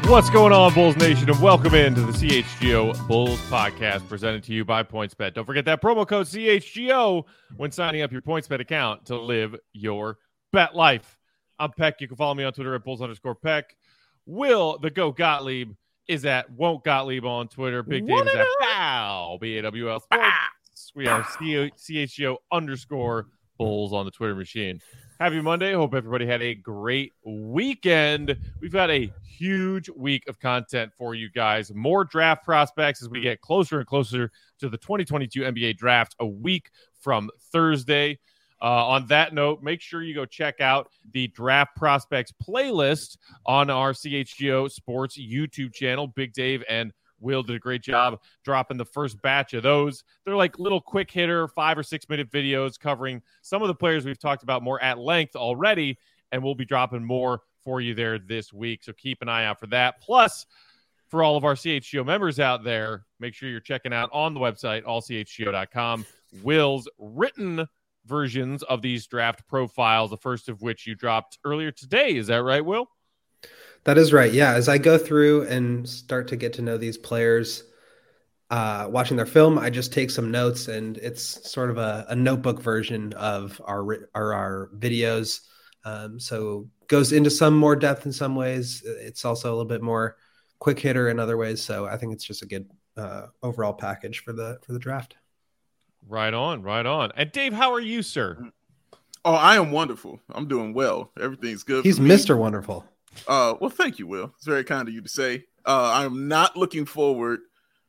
What's going on, Bulls Nation, and welcome into the CHGO Bulls podcast presented to you by PointsBet. Don't forget that promo code CHGO when signing up your PointsBet account to live your bet life. I'm Peck. You can follow me on Twitter at Bulls_Peck. Will the Go Gottlieb is at Won't Gottlieb on Twitter. Big Dave is at Bow, BAWL Sports. We are CHGO_Bulls on the Twitter machine. Happy Monday. Hope everybody had a great weekend. We've got a huge week of content for you guys. More draft prospects as we get closer and closer to the 2022 NBA draft a week from Thursday. On that note, make sure you go check out the draft prospects playlist on our CHGO Sports YouTube channel. Big Dave and Will did a great job dropping the first batch of those. They're like little quick hitter 5 or 6 minute videos covering some of the players we've talked about more at length already, and we'll be dropping more for you there this week. So keep an eye out for that. Plus, for all of our CHGO members out there, make sure you're checking out on the website, allchgo.com, Will's written versions of these draft profiles, the first of which you dropped earlier today. Is that right, Will? That is right. Yeah. As I go through and start to get to know these players, watching their film, I just take some notes, and it's sort of a notebook version of our videos. So goes into some more depth in some ways. It's also a little bit more quick hitter in other ways. So I think it's just a good overall package for the draft. Right on, right on. And Dave, how are you, sir? Oh, I am wonderful. I'm doing well. Everything's good. He's Mr. Wonderful. Well, thank you, Will. It's very kind of you to say. I'm not looking forward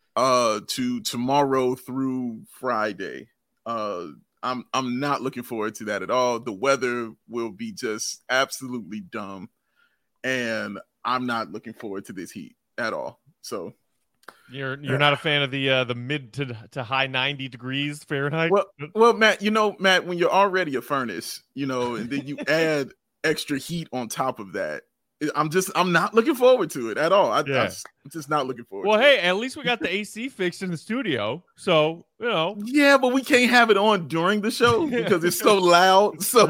to tomorrow through Friday. I'm not looking forward to that at all. The weather will be just absolutely dumb, and I'm not looking forward to this heat at all. So you're not a fan of the mid to high 90 degrees Fahrenheit? Well, Matt, when you're already a furnace, and then you add extra heat on top of that, I'm not looking forward to it at all. I'm just not looking forward to it. Well, hey, at least we got the AC fixed in the studio. So, Yeah, but we can't have it on during the show because it's so loud. So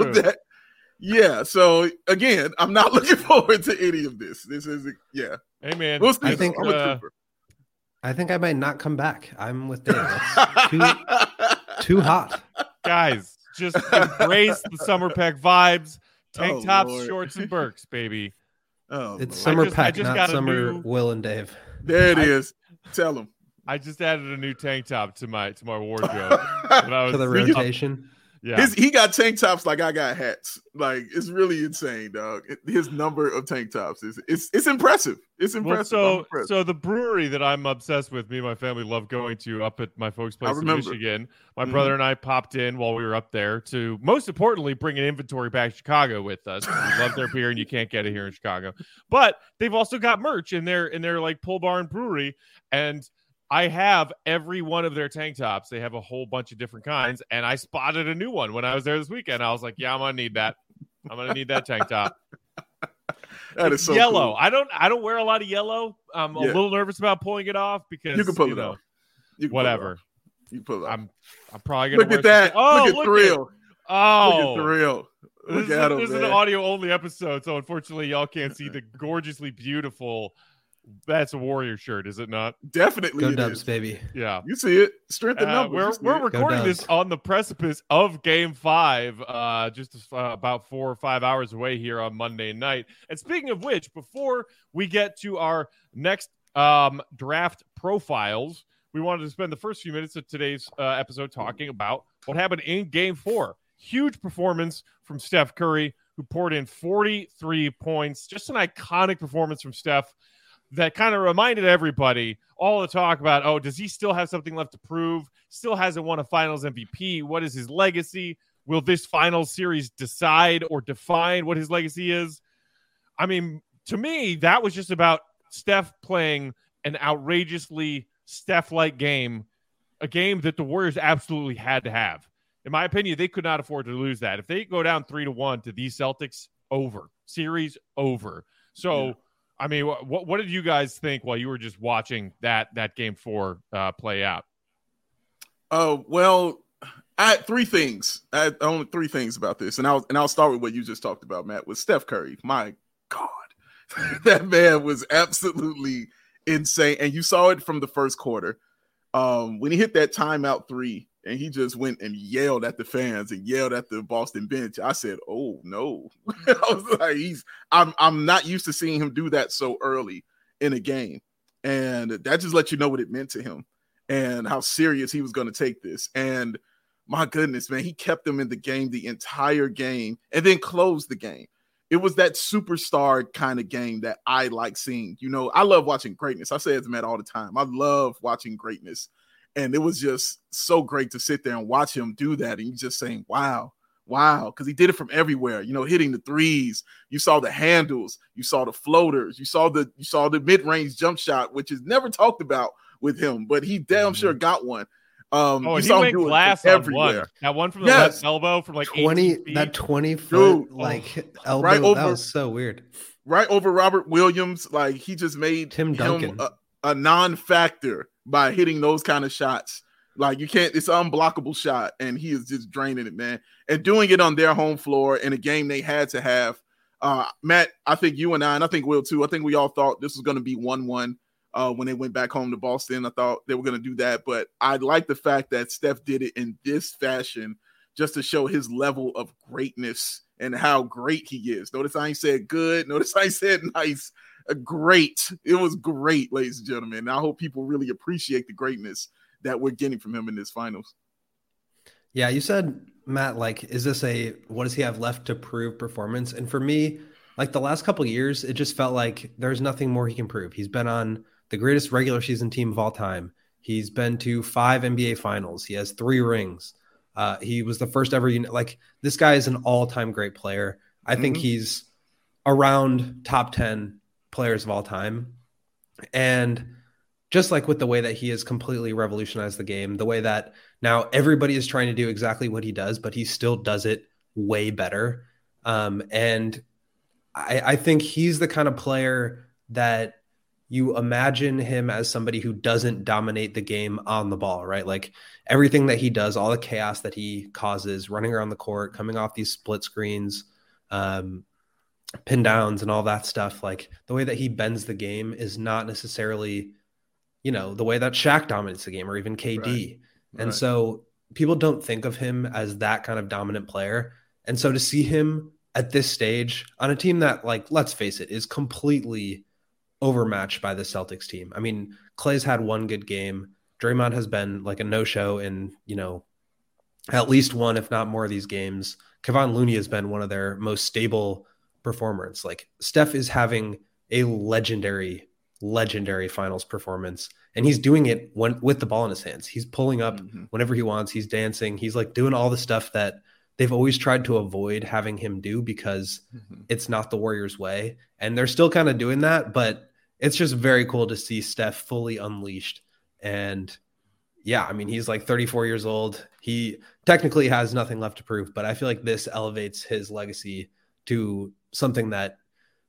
so again, I'm not looking forward to any of this. This is, Hey, man. We'll see. I think I might not come back. I'm with Dave. It's too hot. Guys, just embrace the summer pack vibes. Tank tops, Lord. Shorts, and Birks, baby. Oh, It's Lord. summer pack, not summer Will and Dave. There it is. Tell them. I just added a new tank top to my wardrobe. For the rotation. Yeah. He got tank tops like I got hats. Like, it's really insane, dog. His number of tank tops it's impressive. It's impressive. So the brewery that I'm obsessed with, me and my family love going to up at my folks' place in Michigan. My brother and I popped in while we were up there to, most importantly, bring an inventory back to Chicago with us. We love their beer, and you can't get it here in Chicago. But they've also got merch in their like Pole Barn Brewery, and I have every one of their tank tops. They have a whole bunch of different kinds, and I spotted a new one when I was there this weekend. I was like, yeah, I'm going to need that. I'm going to need that tank top. That is so yellow. Cool. I don't wear a lot of yellow. I'm a little nervous about pulling it off because you can pull it off. Whatever. You pull it off. I'm probably going to look at that. Oh, look at Thrill. Oh, look at Thrill. This is an audio only episode, so unfortunately, y'all can't see the gorgeously beautiful. That's a Warrior shirt, is it not? Definitely. Go Dubs, baby. Yeah. You see it. Strength in numbers. We're recording this on the precipice of Game 5, just about 4 or 5 hours away here on Monday night. And speaking of which, before we get to our next draft profiles, we wanted to spend the first few minutes of today's episode talking about what happened in Game 4. Huge performance from Steph Curry, who poured in 43 points. Just an iconic performance from Steph that kind of reminded everybody all the talk about, oh, does he still have something left to prove? Still hasn't won a finals MVP. What is his legacy? Will this finals series decide or define what his legacy is? I mean, to me, that was just about Steph playing an outrageously Steph-like game, a game that the Warriors absolutely had to have. In my opinion, they could not afford to lose that. If they go down 3-1 to these Celtics, over. Series over. So, yeah. I mean, what did you guys think while you were just watching that Game 4 play out? Well, I had three things. I had only three things about this, and I'll start with what you just talked about, Matt, with Steph Curry. My God, That man was absolutely insane. And you saw it from the first quarter. When he hit that timeout 3 and he just went and yelled at the fans and yelled at the Boston bench, I said, oh no. I was like, I'm not used to seeing him do that so early in a game. And that just lets you know what it meant to him and how serious he was going to take this. And my goodness, man, he kept them in the game the entire game and then closed the game. It was that superstar kind of game that I like seeing. You know, I love watching greatness. I say it to Matt all the time. I love watching greatness. And it was just so great to sit there and watch him do that. And you just saying, wow, because he did it from everywhere, you know, hitting the threes. You saw the handles, you saw the floaters, you saw the mid-range jump shot, which is never talked about with him, but he damn sure got one. He went glass on everywhere. One. That one from the left elbow from like 20, that 20-foot elbow. Right over, that was so weird. Right over Robert Williams. Like he just made Tim Duncan a non-factor by hitting those kind of shots. Like you can't, it's an unblockable shot, and he is just draining it, man. And doing it on their home floor in a game they had to have. Matt, I think you and I think Will too, I think we all thought this was going to be 1-1. When they went back home to Boston, I thought they were going to do that. But I like the fact that Steph did it in this fashion just to show his level of greatness and how great he is. Notice I ain't said good. Notice I said nice. Great. It was great, ladies and gentlemen. And I hope people really appreciate the greatness that we're getting from him in this finals. Yeah, you said, Matt, like, is this a what does he have left to prove performance? And for me, like the last couple of years, it just felt like there's nothing more he can prove. He's been on the greatest regular season team of all time. He's been to 5 NBA finals. He has 3 rings. He was the first ever, like this guy is an all-time great player. I think he's around top 10 players of all time. And just like with the way that he has completely revolutionized the game, the way that now everybody is trying to do exactly what he does, but he still does it way better. And I think he's the kind of player that you imagine him as somebody who doesn't dominate the game on the ball, right? Like everything that he does, all the chaos that he causes, running around the court, coming off these split screens, pin downs and all that stuff. Like the way that he bends the game is not necessarily, the way that Shaq dominates the game or even KD. Right. And so people don't think of him as that kind of dominant player. And so to see him at this stage on a team that, like, let's face it, is completely overmatched by the Celtics team. I mean, Klay's had one good game. Draymond has been like a no-show in, at least one, if not more of these games. Kevon Looney has been one of their most stable performers. Like Steph is having a legendary finals performance, and he's doing it with the ball in his hands. He's pulling up whenever he wants. He's dancing. He's like doing all the stuff that they've always tried to avoid having him do because it's not the Warriors way. And they're still kind of doing that, but it's just very cool to see Steph fully unleashed. And yeah, I mean, he's like 34 years old. He technically has nothing left to prove, but I feel like this elevates his legacy to something that,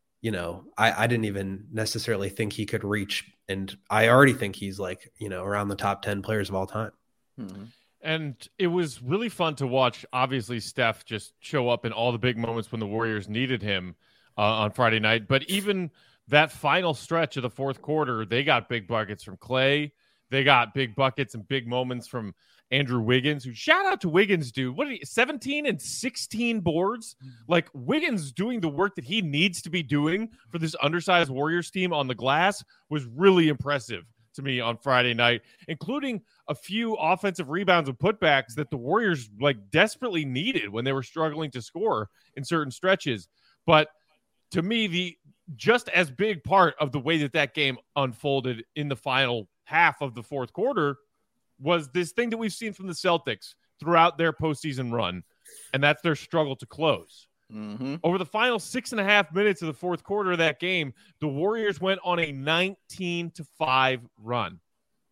I didn't even necessarily think he could reach. And I already think he's like, around the top 10 players of all time. And it was really fun to watch, obviously, Steph just show up in all the big moments when the Warriors needed him on Friday night. But even that final stretch of the fourth quarter, they got big buckets from Klay. They got big buckets and big moments from Andrew Wiggins, who shout out to Wiggins, dude. What 17 and 16 boards? Like Wiggins doing the work that he needs to be doing for this undersized Warriors team on the glass was really impressive to me on Friday night, including a few offensive rebounds and putbacks that the Warriors like desperately needed when they were struggling to score in certain stretches. But to me, the just as big part of the way that game unfolded in the final half of the fourth quarter was this thing that we've seen from the Celtics throughout their postseason run, and that's their struggle to close. Over the final 6.5 minutes of the fourth quarter of that game, the Warriors went on a 19-5 run.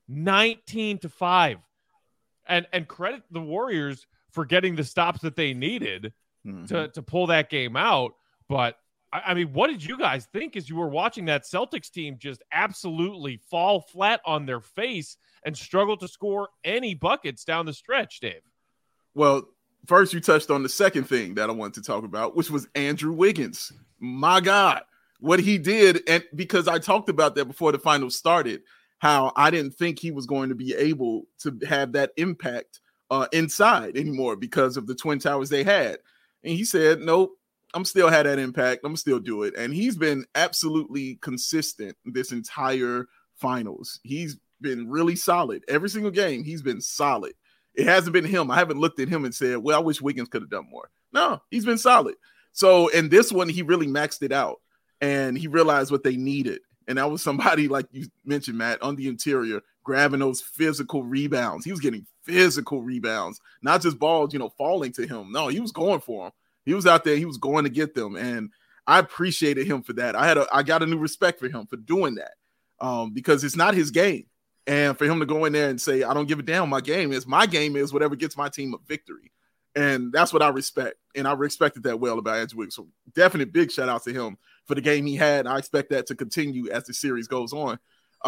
19-5. And credit the Warriors for getting the stops that they needed to pull that game out. But I mean, what did you guys think as you were watching that Celtics team just absolutely fall flat on their face and struggle to score any buckets down the stretch, Dave? Well, first you touched on the second thing that I wanted to talk about, which was Andrew Wiggins. My God, what he did, and because I talked about that before the finals started, how I didn't think he was going to be able to have that impact inside anymore because of the Twin Towers they had. And he said, nope, I'm still had that impact. I'm still do it. And he's been absolutely consistent this entire finals. He's been really solid. Every single game, he's been solid. It hasn't been him. I haven't looked at him and said, well, I wish Wiggins could have done more. No, he's been solid. So in this one, he really maxed it out and he realized what they needed. And that was somebody, like you mentioned, Matt, on the interior, grabbing those physical rebounds. He was getting physical rebounds, not just balls, falling to him. No, he was going for them. He was out there. He was going to get them. And I appreciated him for that. I got a new respect for him for doing that because it's not his game. And for him to go in there and say, I don't give a damn, my game is whatever gets my team a victory. And that's what I respect. And I respected that well about Andrew Wiggins. So definite big shout out to him for the game he had. And I expect that to continue as the series goes on.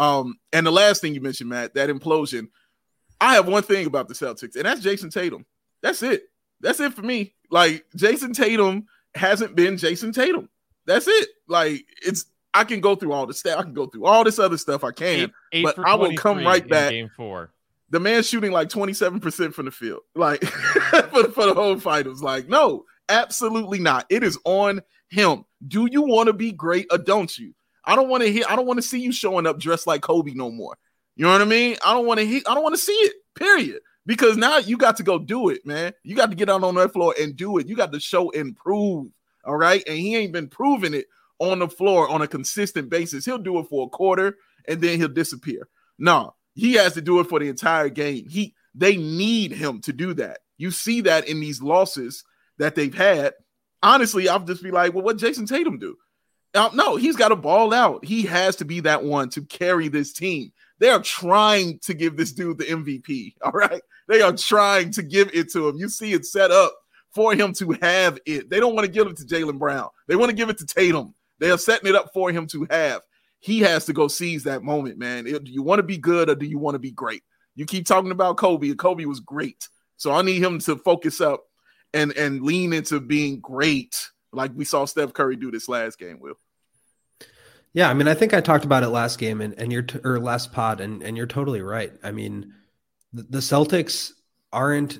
And the last thing you mentioned, Matt, that implosion. I have one thing about the Celtics, and that's Jason Tatum. That's it. That's it for me. Like, Jason Tatum hasn't been Jason Tatum. That's it. Like, I can go through all the stuff. I can go through all this other stuff I can, but I will come right back. Game 4. The man's shooting like 27% from the field, like for the whole finals. Like, no, absolutely not. It is on him. Do you want to be great or don't you? I don't want to see you showing up dressed like Kobe no more. You know what I mean? I don't want to see it, period. Because now you got to go do it, man. You got to get out on that floor and do it. You got to show and prove, all right? And he ain't been proving it on the floor on a consistent basis. He'll do it for a quarter, and then he'll disappear. No, he has to do it for the entire game. They need him to do that. You see that in these losses that they've had. Honestly, I'll just be like, well, what Jason Tatum do? No, he's got to ball out. He has to be that one to carry this team. They are trying to give this dude the MVP, all right? They are trying to give it to him. You see it set up for him to have it. They don't want to give it to Jaylen Brown. They want to give it to Tatum. They are setting it up for him to have. He has to go seize that moment, man. Do you want to be good or do you want to be great? You keep talking about Kobe, and Kobe was great. So I need him to focus up and lean into being great like we saw Steph Curry do this last game, Will. Yeah, I mean, I think I talked about it last game and or last pod, and you're totally right. I mean, the Celtics aren't.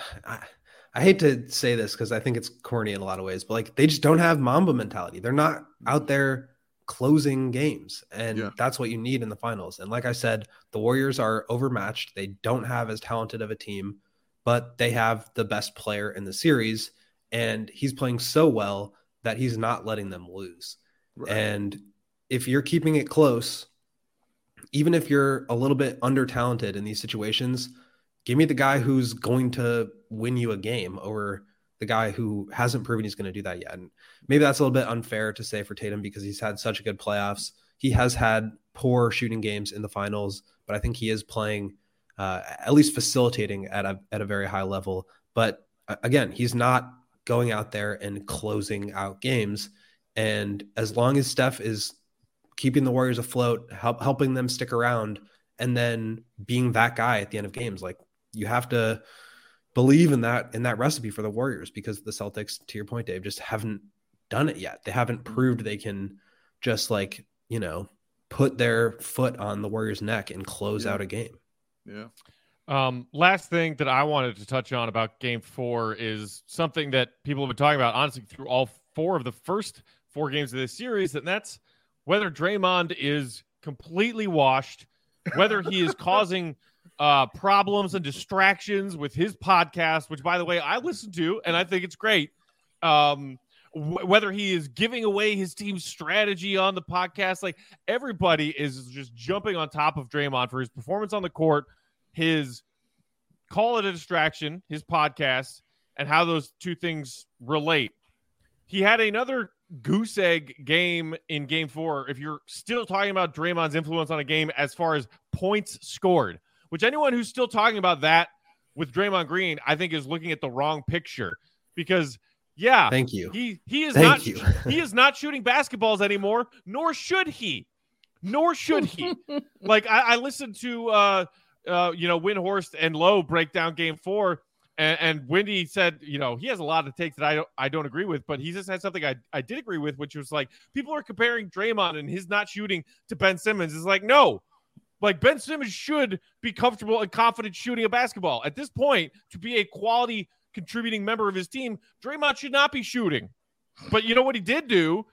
I hate to say this because I think it's corny in a lot of ways, but like they just don't have Mamba mentality. They're not out there closing games, and that's what you need in the finals. And like I said, the Warriors are overmatched. They don't have as talented of a team, but they have the best player in the series, and he's playing so well that he's not letting them lose. Right. And if you're keeping it close, even if you're a little bit under talented in these situations, give me the guy who's going to win you a game over the guy who hasn't proven he's going to do that yet. And maybe that's a little bit unfair to say for Tatum because he's had such a good playoffs. He has had poor shooting games in the finals, but I think he is playing, at least facilitating at a very high level. But again, he's not going out there and closing out games. And as long as Steph is keeping the Warriors afloat, helping them stick around, and then being that guy at the end of games, like you have to believe in that recipe for the Warriors, because the Celtics, to your point, Dave, just haven't done it yet. They haven't proved they can just put their foot on the Warriors' neck and close out a game. Yeah. Last thing that I wanted to touch on about Game 4 is something that people have been talking about, honestly, through all 4 of the first 4 games of this series, and that's whether Draymond is completely washed, whether he is causing problems and distractions with his podcast, which, by the way, I listen to, and I think it's great. Whether he is giving away his team's strategy on the podcast, like everybody is just jumping on top of Draymond for his performance on the court, his call it a distraction, his podcast, and how those two things relate. He had another goose egg game in Game 4. If you're still talking about Draymond's influence on a game as far as points scored, which anyone who's still talking about that with Draymond Green, I think is looking at the wrong picture, because thank you. He is not shooting basketballs anymore, nor should he. Like I listened to Windhorst and Lowe break down Game 4. And Wendy said, he has a lot of takes that I don't agree with, but he just had something I did agree with, which was like, people are comparing Draymond and his not shooting to Ben Simmons. It's like, no, like Ben Simmons should be comfortable and confident shooting a basketball. At this point, to be a quality contributing member of his team, Draymond should not be shooting. But you know what he did do?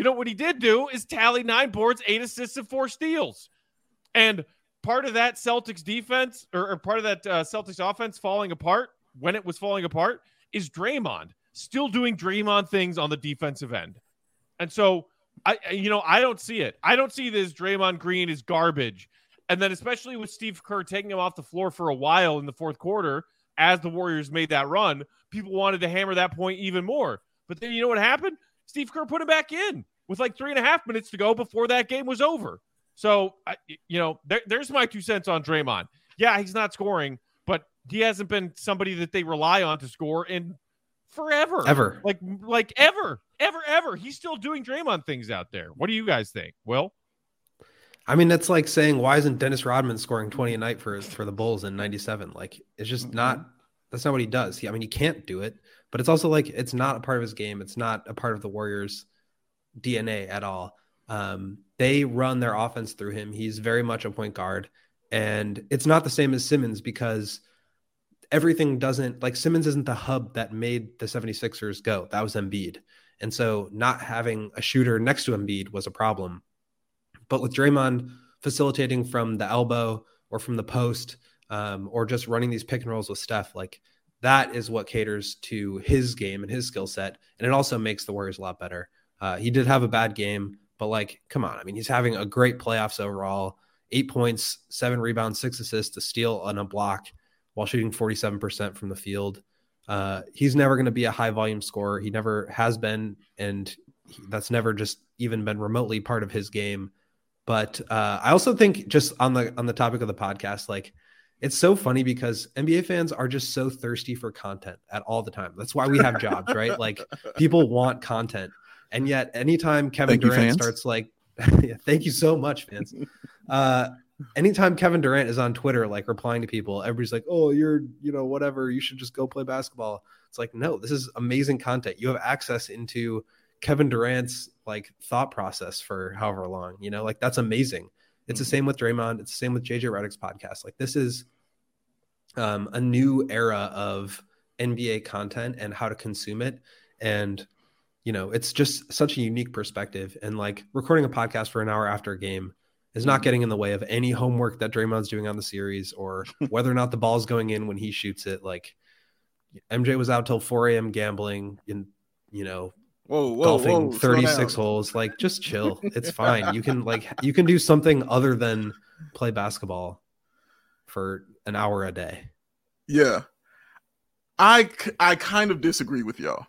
Is tally 9 boards, 8 assists, and 4 steals. And part of that Celtics defense or part of that Celtics offense falling apart, when it was falling apart, is Draymond still doing Draymond things on the defensive end. And so I don't see it. I don't see this Draymond Green is garbage. And then especially with Steve Kerr taking him off the floor for a while in the fourth quarter, as the Warriors made that run, people wanted to hammer that point even more. But then you know what happened? Steve Kerr put him back in with like 3.5 minutes to go before that game was over. So, there's my 2 cents on Draymond. Yeah, he's not scoring, but he hasn't been somebody that they rely on to score in forever. Ever. Like ever. He's still doing Draymond things out there. What do you guys think? Will? I mean, that's like saying, why isn't Dennis Rodman scoring 20 a night for the Bulls in 97? Like, it's just that's not what he does. He can't do it, but it's also like, it's not a part of his game. It's not a part of the Warriors' DNA at all. They run their offense through him. He's very much a point guard, and it's not the same as Simmons because everything doesn't, like, Simmons isn't the hub that made the 76ers go. That was Embiid. And so not having a shooter next to Embiid was a problem. But with Draymond facilitating from the elbow or from the post, or just running these pick and rolls with Steph, like, that is what caters to his game and his skill set. And it also makes the Warriors a lot better. He did have a bad game, but like, come on. I mean, he's having a great playoffs overall, 8 points, 7 rebounds, 6 assists, a steal and a block while shooting 47% from the field. He's never going to be a high volume scorer. He never has been. And that's never just even been remotely part of his game. But I also think, just on the topic of the podcast, like, it's so funny because NBA fans are just so thirsty for content at all the time. That's why we have jobs, right? Like, people want content. And yet anytime Kevin Durant starts like, yeah, thank you so much, fans. Anytime Kevin Durant is on Twitter, like, replying to people, everybody's like, oh, you're, whatever, you should just go play basketball. It's like, no, this is amazing content. You have access into Kevin Durant's like thought process for however long, like, that's amazing. It's the same with Draymond. It's the same with JJ Redick's podcast. Like, this is a new era of NBA content and how to consume it. And it's just such a unique perspective. And like, recording a podcast for an hour after a game is not getting in the way of any homework that Draymond's doing on the series, or whether or not the ball's going in when he shoots it. Like, MJ was out till 4 a.m. gambling and, golfing 36 holes. Like, just chill. It's fine. You can do something other than play basketball for an hour a day. Yeah. I kind of disagree with y'all.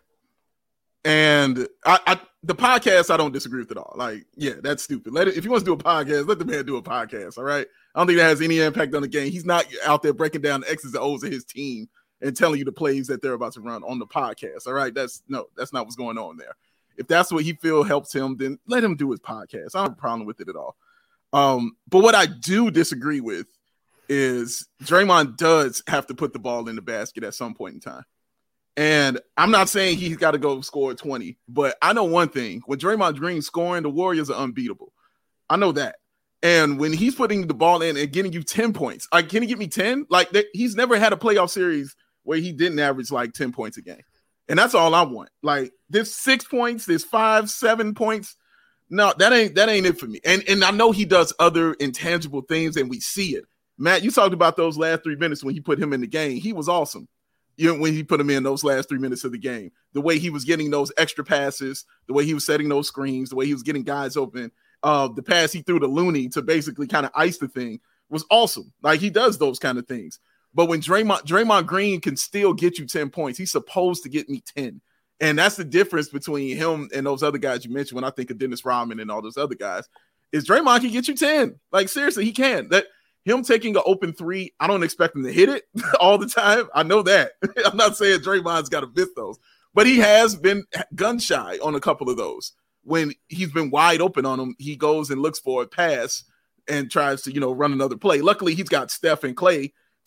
And the podcast, I don't disagree with it all. Like, yeah, that's stupid. If he wants to do a podcast, let the man do a podcast. All right. I don't think that has any impact on the game. He's not out there breaking down the X's and O's of his team and telling you the plays that they're about to run on the podcast. All right. That's not what's going on there. If that's what he feel helps him, then let him do his podcast. I don't have a problem with it at all. But what I do disagree with is Draymond does have to put the ball in the basket at some point in time. And I'm not saying he's got to go score 20, but I know one thing. When Draymond Green's scoring, the Warriors are unbeatable. I know that. And when he's putting the ball in and getting you 10 points, can he get me 10? Like, he's never had a playoff series where he didn't average like 10 points a game. And that's all I want. Like, there's 6 points, there's 5, 7 points. No, that ain't it for me. And I know he does other intangible things, and we see it. Matt, you talked about those last 3 minutes when he put him in the game. He was awesome. When he put him in those last 3 minutes of the game, the way he was getting those extra passes, the way he was setting those screens, the way he was getting guys open, the pass he threw to Looney to basically kind of ice the thing was awesome. Like, he does those kind of things. But when Draymond Green can still get you 10 points, he's supposed to get me 10. And that's the difference between him and those other guys you mentioned when I think of Dennis Rodman and all those other guys, is Draymond can get you 10. Like, seriously, he can. That him taking an open 3, I don't expect him to hit it all the time. I know that. I'm not saying Draymond's got to miss those, but he has been gun shy on a couple of those. When he's been wide open on them, he goes and looks for a pass and tries to, run another play. Luckily, he's got Steph and Clay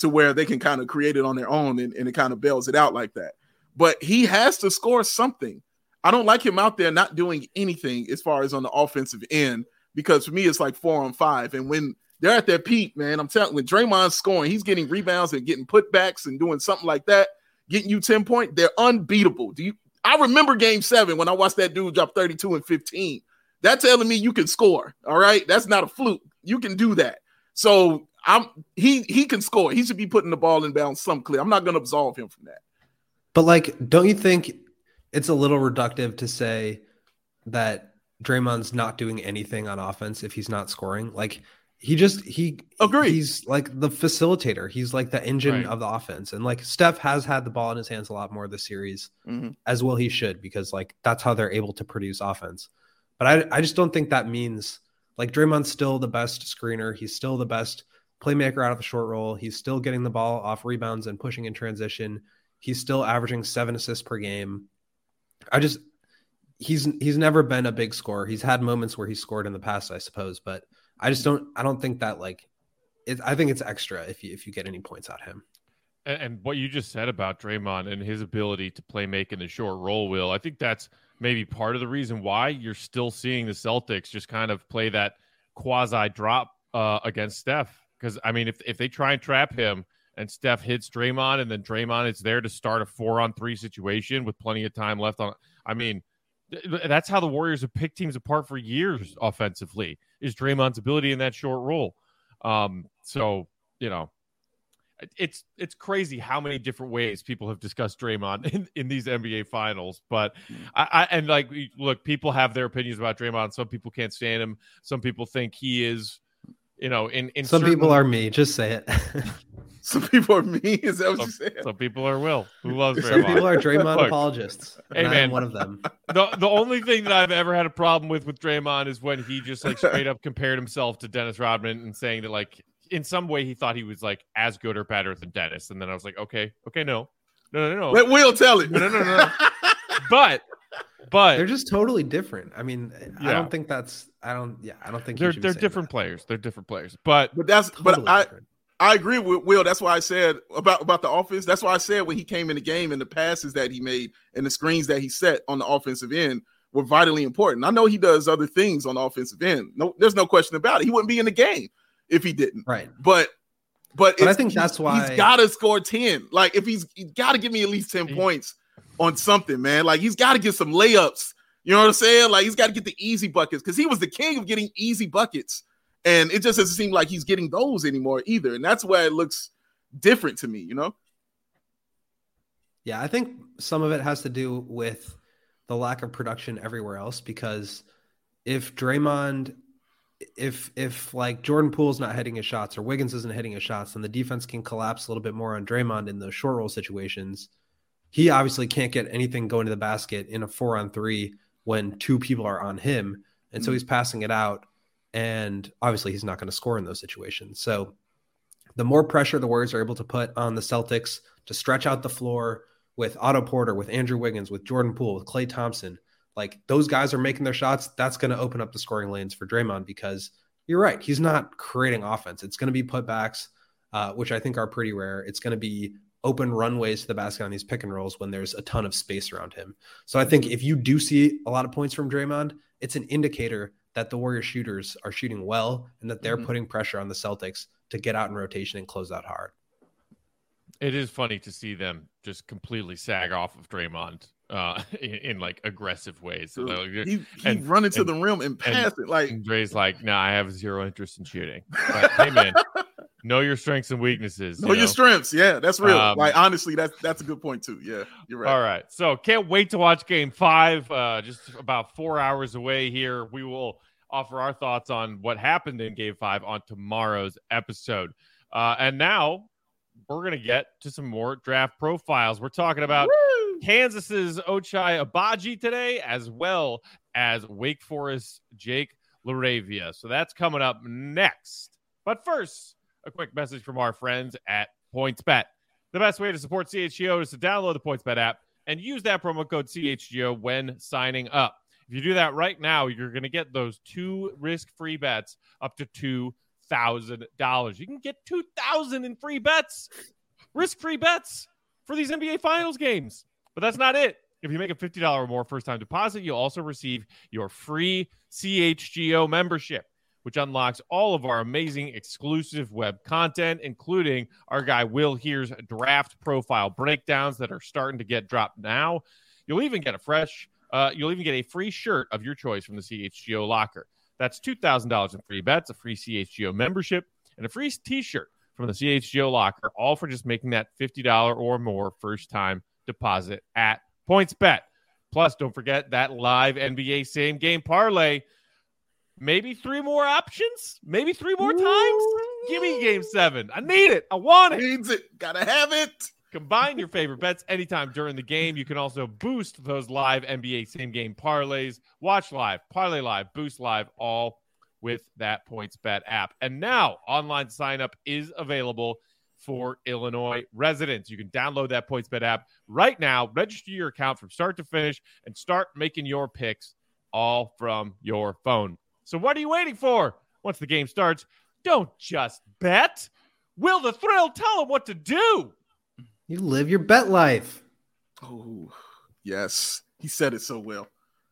to where they can kind of create it on their own and it kind of bails it out like that. But he has to score something. I don't like him out there not doing anything as far as on the offensive end, because for me, it's like 4-on-5. And when they're at their peak, man, I'm telling you, when Draymond's scoring, he's getting rebounds and getting putbacks and doing something like that, getting you 10 points, they're unbeatable. I remember game 7 when I watched that dude drop 32 and 15. That's telling me you can score. All right. That's not a fluke. You can do that. So he can score. He should be putting the ball in bounds some clear. I'm not going to absolve him from that. But like, don't you think it's a little reductive to say that Draymond's not doing anything on offense if he's not scoring? Like he agree. He's like the facilitator. He's like the engine of the offense. And like Steph has had the ball in his hands a lot more this series, as well he should, because like that's how they're able to produce offense. But I just don't think that means like Draymond's still the best screener. He's still the best playmaker out of the short roll. He's still getting the ball off rebounds and pushing in transition. He's still averaging 7 assists per game. He's never been a big scorer. He's had moments where he scored in the past, I suppose, but I don't think that like I think it's extra if you get any points out of him. And what you just said about Draymond and his ability to play make in the short roll, Will, I think that's maybe part of the reason why you're still seeing the Celtics just kind of play that quasi drop against Steph. Because I mean, if they try and trap him and Steph hits Draymond, and then Draymond is there to start a 4-on-3 situation with plenty of time left on. I mean, that's how the Warriors have picked teams apart for years offensively, is Draymond's ability in that short roll. So, you know, it's crazy how many different ways people have discussed Draymond in these NBA finals. But and like, look, people have their opinions about Draymond. Some people can't stand him. Some people think he is, you know, in some people are me. Just say it. Some people are me. Is that what you said? Some people are Will, who loves Draymond. Some people are Draymond apologists. Hey, man, I'm one of them. The only thing that I've ever had a problem with Draymond is when he just like straight up compared himself to Dennis Rodman and saying that like in some way he thought he was like as good or better than Dennis. And then I was like, okay, no. Let Will tell it. No. But they're just totally different. I mean, yeah. I don't think they're different players. They're different players. But I agree with Will. That's why I said about the offense. That's why I said when he came in the game and the passes that he made and the screens that he set on the offensive end were vitally important. I know he does other things on the offensive end. No, there's no question about it. He wouldn't be in the game if he didn't. Right. But I think that's why he's got to score 10. Like if he's got to give me at least 10 points on something, man. Like he's got to get some layups. You know what I'm saying? Like he's got to get the easy buckets because he was the king of getting easy buckets. And it just doesn't seem like he's getting those anymore either. And that's where it looks different to me, you know? Yeah, I think some of it has to do with the lack of production everywhere else, because if Draymond, if like Jordan Poole's not hitting his shots or Wiggins isn't hitting his shots, then the defense can collapse a little bit more on Draymond in those short roll situations. He obviously can't get anything going to the basket in a 4-on-3 when 2 people are on him. And so he's passing it out. And obviously he's not going to score in those situations. So the more pressure the Warriors are able to put on the Celtics to stretch out the floor with Otto Porter, with Andrew Wiggins, with Jordan Poole, with Klay Thompson, like those guys are making their shots. That's going to open up the scoring lanes for Draymond, because you're right. He's not creating offense. It's going to be putbacks, which I think are pretty rare. It's going to be open runways to the basket on these pick and rolls when there's a ton of space around him. So I think if you do see a lot of points from Draymond, it's an indicator that the Warriors shooters are shooting well and that they're putting pressure on the Celtics to get out in rotation and close out hard. It is funny to see them just completely sag off of Draymond in like aggressive ways. So he run into the rim and pass it. Like Dre's like, nah, I have zero interest in shooting. But, hey man, know your strengths and weaknesses. Know your strengths. Yeah, that's real. Like honestly, that's a good point too. Yeah, you're right. All right. So can't wait to watch game 5. Just about 4 hours away here. We will offer our thoughts on what happened in game 5 on tomorrow's episode. And now we're going to get to some more draft profiles. We're talking about Kansas's Ochai Agbaji today, as well as Wake Forest Jake LaRavia. So that's coming up next. But first, a quick message from our friends at PointsBet. The best way to support CHGO is to download the PointsBet app and use that promo code CHGO when signing up. If you do that right now, you're going to get those 2 risk-free bets up to $2,000. You can get $2,000 in free bets, risk-free bets for these NBA Finals games. But that's not it. If you make a $50 or more first-time deposit, you'll also receive your free CHGO membership, which unlocks all of our amazing exclusive web content, including our guy Will Here's draft profile breakdowns that are starting to get dropped now. You'll even get a free shirt of your choice from the CHGO locker. That's $2,000 in free bets, a free CHGO membership, and a free t-shirt from the CHGO locker, all for just making that $50 or more first-time deposit at PointsBet. Plus, don't forget that live NBA same-game parlay. Maybe 3 more options? Maybe 3 more times? Give me Game 7. I need it. I want it. Needs it. Gotta have it. Combine your favorite bets anytime during the game. You can also boost those live NBA same-game parlays. Watch live, parlay live, boost live, all with that PointsBet app. And now, online sign-up is available for Illinois residents. You can download that PointsBet app right now, register your account from start to finish, and start making your picks all from your phone. So what are you waiting for? Once the game starts, don't just bet. Will the Thrill tell them what to do? You live your bet life. Oh, yes. He said it so well.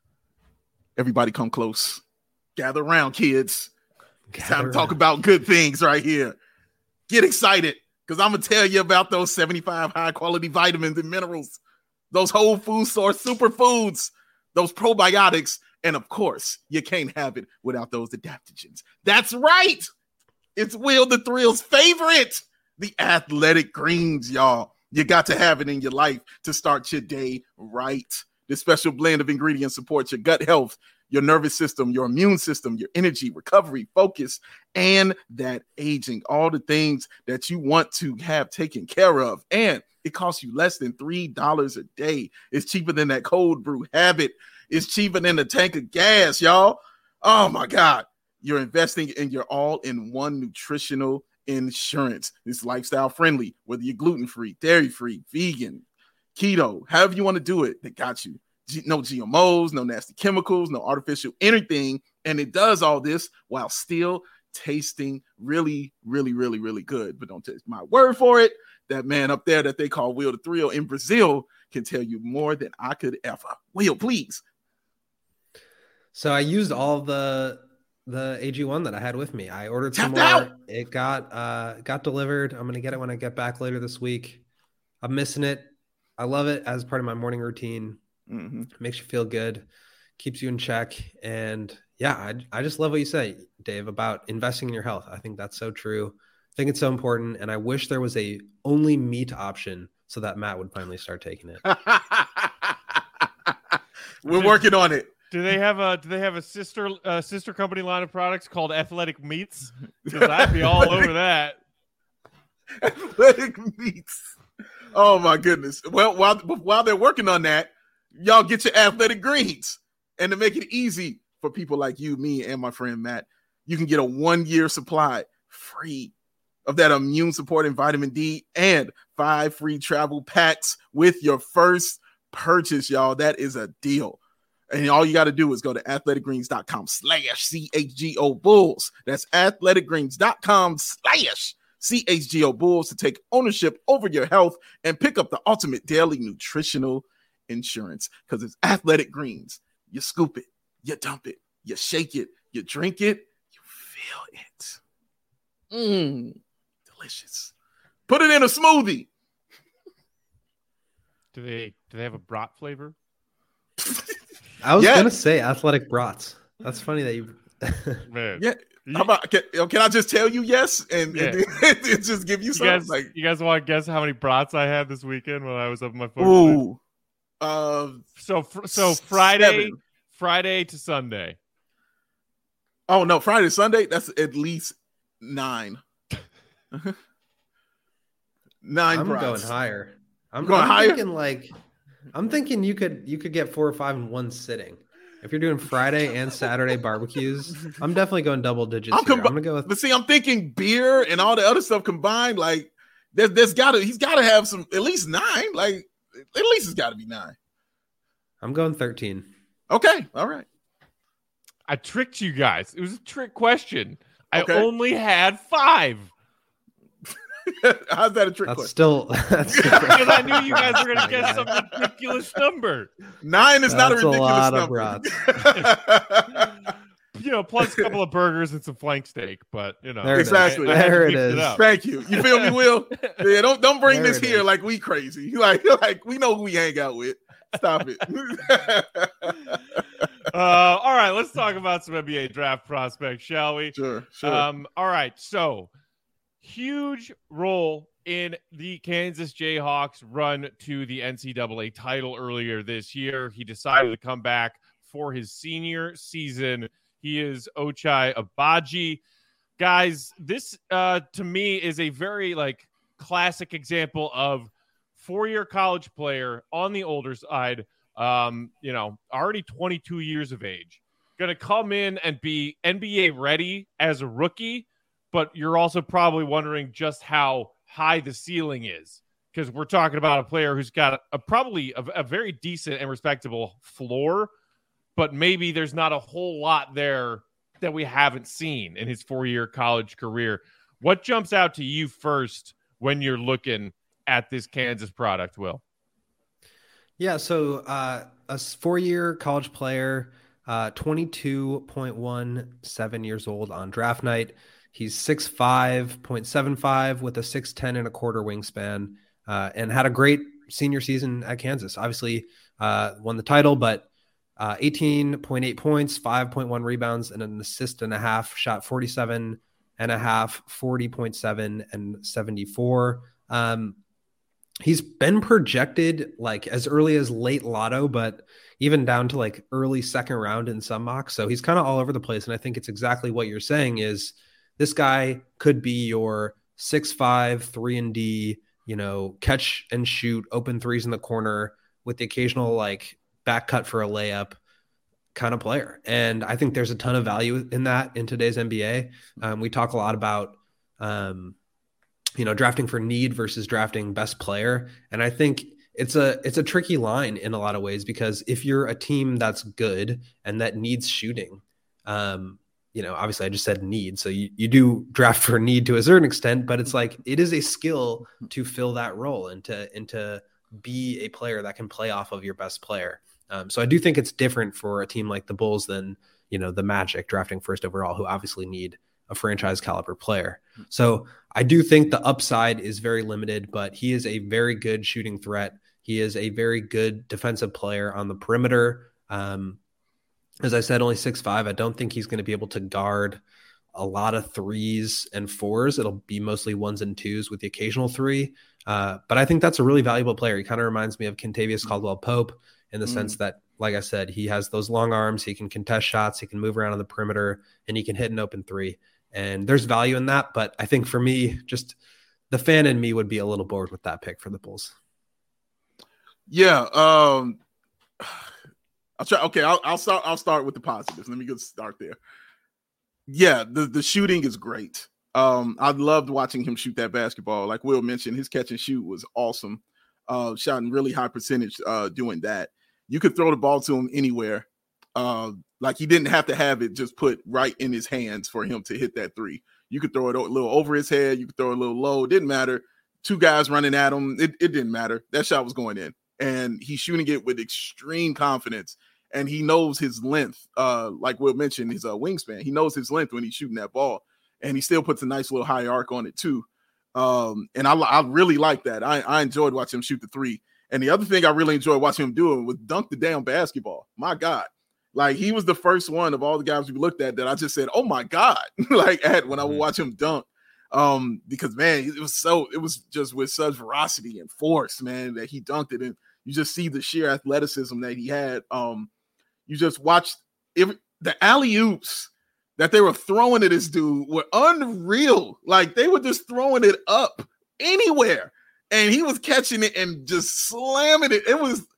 Everybody come close. Gather around, kids. It's time to talk about good things right here. Get excited, because I'm going to tell you about those 75 high-quality vitamins and minerals, those whole food source superfoods, those probiotics, and, of course, you can't have it without those adaptogens. That's right. It's Will the Thrill's favorite, the Athletic Greens, y'all. You got to have it in your life to start your day right. This special blend of ingredients supports your gut health, your nervous system, your immune system, your energy, recovery, focus, and that aging. All the things that you want to have taken care of. And it costs you less than $3 a day. It's cheaper than that cold brew habit. It's cheaper than a tank of gas, y'all. Oh, my God. You're investing in your all-in-one nutritional insurance. It's lifestyle friendly, whether you're gluten-free, dairy-free, vegan, keto, however you want to do it, they got you. No GMOs, no nasty chemicals, no artificial anything. And it does all this while still tasting really, really, really, really good. But don't take my word for it. That man up there that they call Will the Thrill in Brazil can tell you more than I could ever. Will, please. So I used all of the AG1 that I had with me. I ordered some more. Out. It got delivered. I'm gonna get it when I get back later this week. I'm missing it. I love it as part of my morning routine. Mm-hmm. Makes you feel good, keeps you in check. And yeah, I just love what you say, Dave, about investing in your health. I think that's so true. I think it's so important. And I wish there was a only meat option so that Matt would finally start taking it. We're working on it. Do they have a sister company line of products called Athletic Meats? Because I'd be all over that. Athletic Meats. Oh my goodness. Well, while they're working on that, y'all get your Athletic Greens. And to make it easy for people like you, me, and my friend Matt, you can get a 1-year supply free of that immune supporting vitamin D and 5 free travel packs with your first purchase, y'all. That is a deal. And all you got to do is go to athleticgreens.com/CHGO Bulls. That's athleticgreens.com/CHGO Bulls to take ownership over your health and pick up the ultimate daily nutritional insurance. Because it's Athletic Greens. You scoop it, you dump it, you shake it, you drink it, you feel it. Delicious. Put it in a smoothie. Do they have a brat flavor? I was gonna say athletic brats. That's funny that you. Man, yeah. How about can I just tell you yes and just give you some? You guys want to guess how many brats I had this weekend when I was up in my phone? Ooh. So Friday to Sunday. Oh no, Friday to Sunday. That's at least 9. 9 I'm brats. going higher. I'm higher. I'm thinking you could get 4 or 5 in one sitting. If you're doing Friday and Saturday barbecues, I'm definitely going double digits. I'm gonna go with. But see, I'm thinking beer and all the other stuff combined. Like, he's got to have some at least 9. Like, at least it's got to be 9. I'm going 13. Okay, all right. I tricked you guys. It was a trick question. I Okay. only had 5. How's that a trick question? That's Because I knew you guys were going to guess some ridiculous number. 9 is not a That's ridiculous lot of number. brats. Plus a couple of burgers and some flank steak, but There Exactly. There it is. Thank you. You feel me, Will? Yeah, don't bring There this it here is. like we crazy. Like we know who we hang out with. Stop it. All right, let's talk about some NBA draft prospects, shall we? Sure. All right, so huge role in the Kansas Jayhawks run to the NCAA title earlier this year. He decided to come back for his senior season. He is Ochai Agbaji. Guys, this to me is a very classic example of 4-year college player on the older side, already 22 years of age, going to come in and be NBA ready as a rookie, but you're also probably wondering just how high the ceiling is, because we're talking about a player who's got probably a very decent and respectable floor, but maybe there's not a whole lot there that we haven't seen in his 4-year college career. What jumps out to you first when you're looking at this Kansas product, Will? Yeah, so a 4-year college player, 22.17 years old on draft night. He's 6'5", 0.75 with a 6'10" and a quarter wingspan, and had a great senior season at Kansas. Obviously, won the title, but 18.8 points, 5.1 rebounds, and an assist and a half. Shot 47.5, 40.7, and 74. He's been projected as early as late lotto, but even down to early second round in some mocks. So he's kind of all over the place. And I think it's exactly what you're saying is this guy could be your 6'5", 3-and-D, catch and shoot, open threes in the corner with the occasional back cut for a layup kind of player. And I think there's a ton of value in that in today's NBA. We talk a lot about, drafting for need versus drafting best player. And I think it's a tricky line in a lot of ways, because if you're a team that's good and that needs shooting, obviously I just said need. So you do draft for need to a certain extent, but it's it is a skill to fill that role and to be a player that can play off of your best player. So I do think it's different for a team like the Bulls than, the Magic drafting first overall, who obviously need a franchise caliber player. So I do think the upside is very limited, but he is a very good shooting threat. He is a very good defensive player on the perimeter. As I said, only 6'5". I don't think he's going to be able to guard a lot of 3s and 4s. It'll be mostly 1s and 2s with the occasional 3. But I think that's a really valuable player. He kind of reminds me of Kentavious Caldwell-Pope in the sense that, like I said, he has those long arms. He can contest shots. He can move around on the perimeter, and he can hit an open 3. And there's value in that. But I think for me, just the fan in me would be a little bored with that pick for the Bulls. Yeah. I'll try. Okay. I'll start with the positives. Let me get start there. Yeah. The shooting is great. I loved watching him shoot that basketball. Like Will mentioned, his catch and shoot was awesome. Shot in really high percentage doing that. You could throw the ball to him anywhere. He didn't have to have it just put right in his hands for him to hit that 3. You could throw it a little over his head. You could throw it a little low. It didn't matter. 2 guys running at him. It didn't matter. That shot was going in. And he's shooting it with extreme confidence. And he knows his length. Like Will mentioned, his wingspan. He knows his length when he's shooting that ball. And he still puts a nice little high arc on it too. And I really like that. I enjoyed watching him shoot the 3. And the other thing I really enjoyed watching him doing was dunk the damn basketball. My God. He was the first one of all the guys we looked at that I just said, oh my God, when I would watch him dunk. Because man, it was just with such veracity and force, man, that he dunked it. And you just see the sheer athleticism that he had. You just watched the alley-oops that they were throwing at this dude were unreal. They were just throwing it up anywhere. And he was catching it and just slamming it.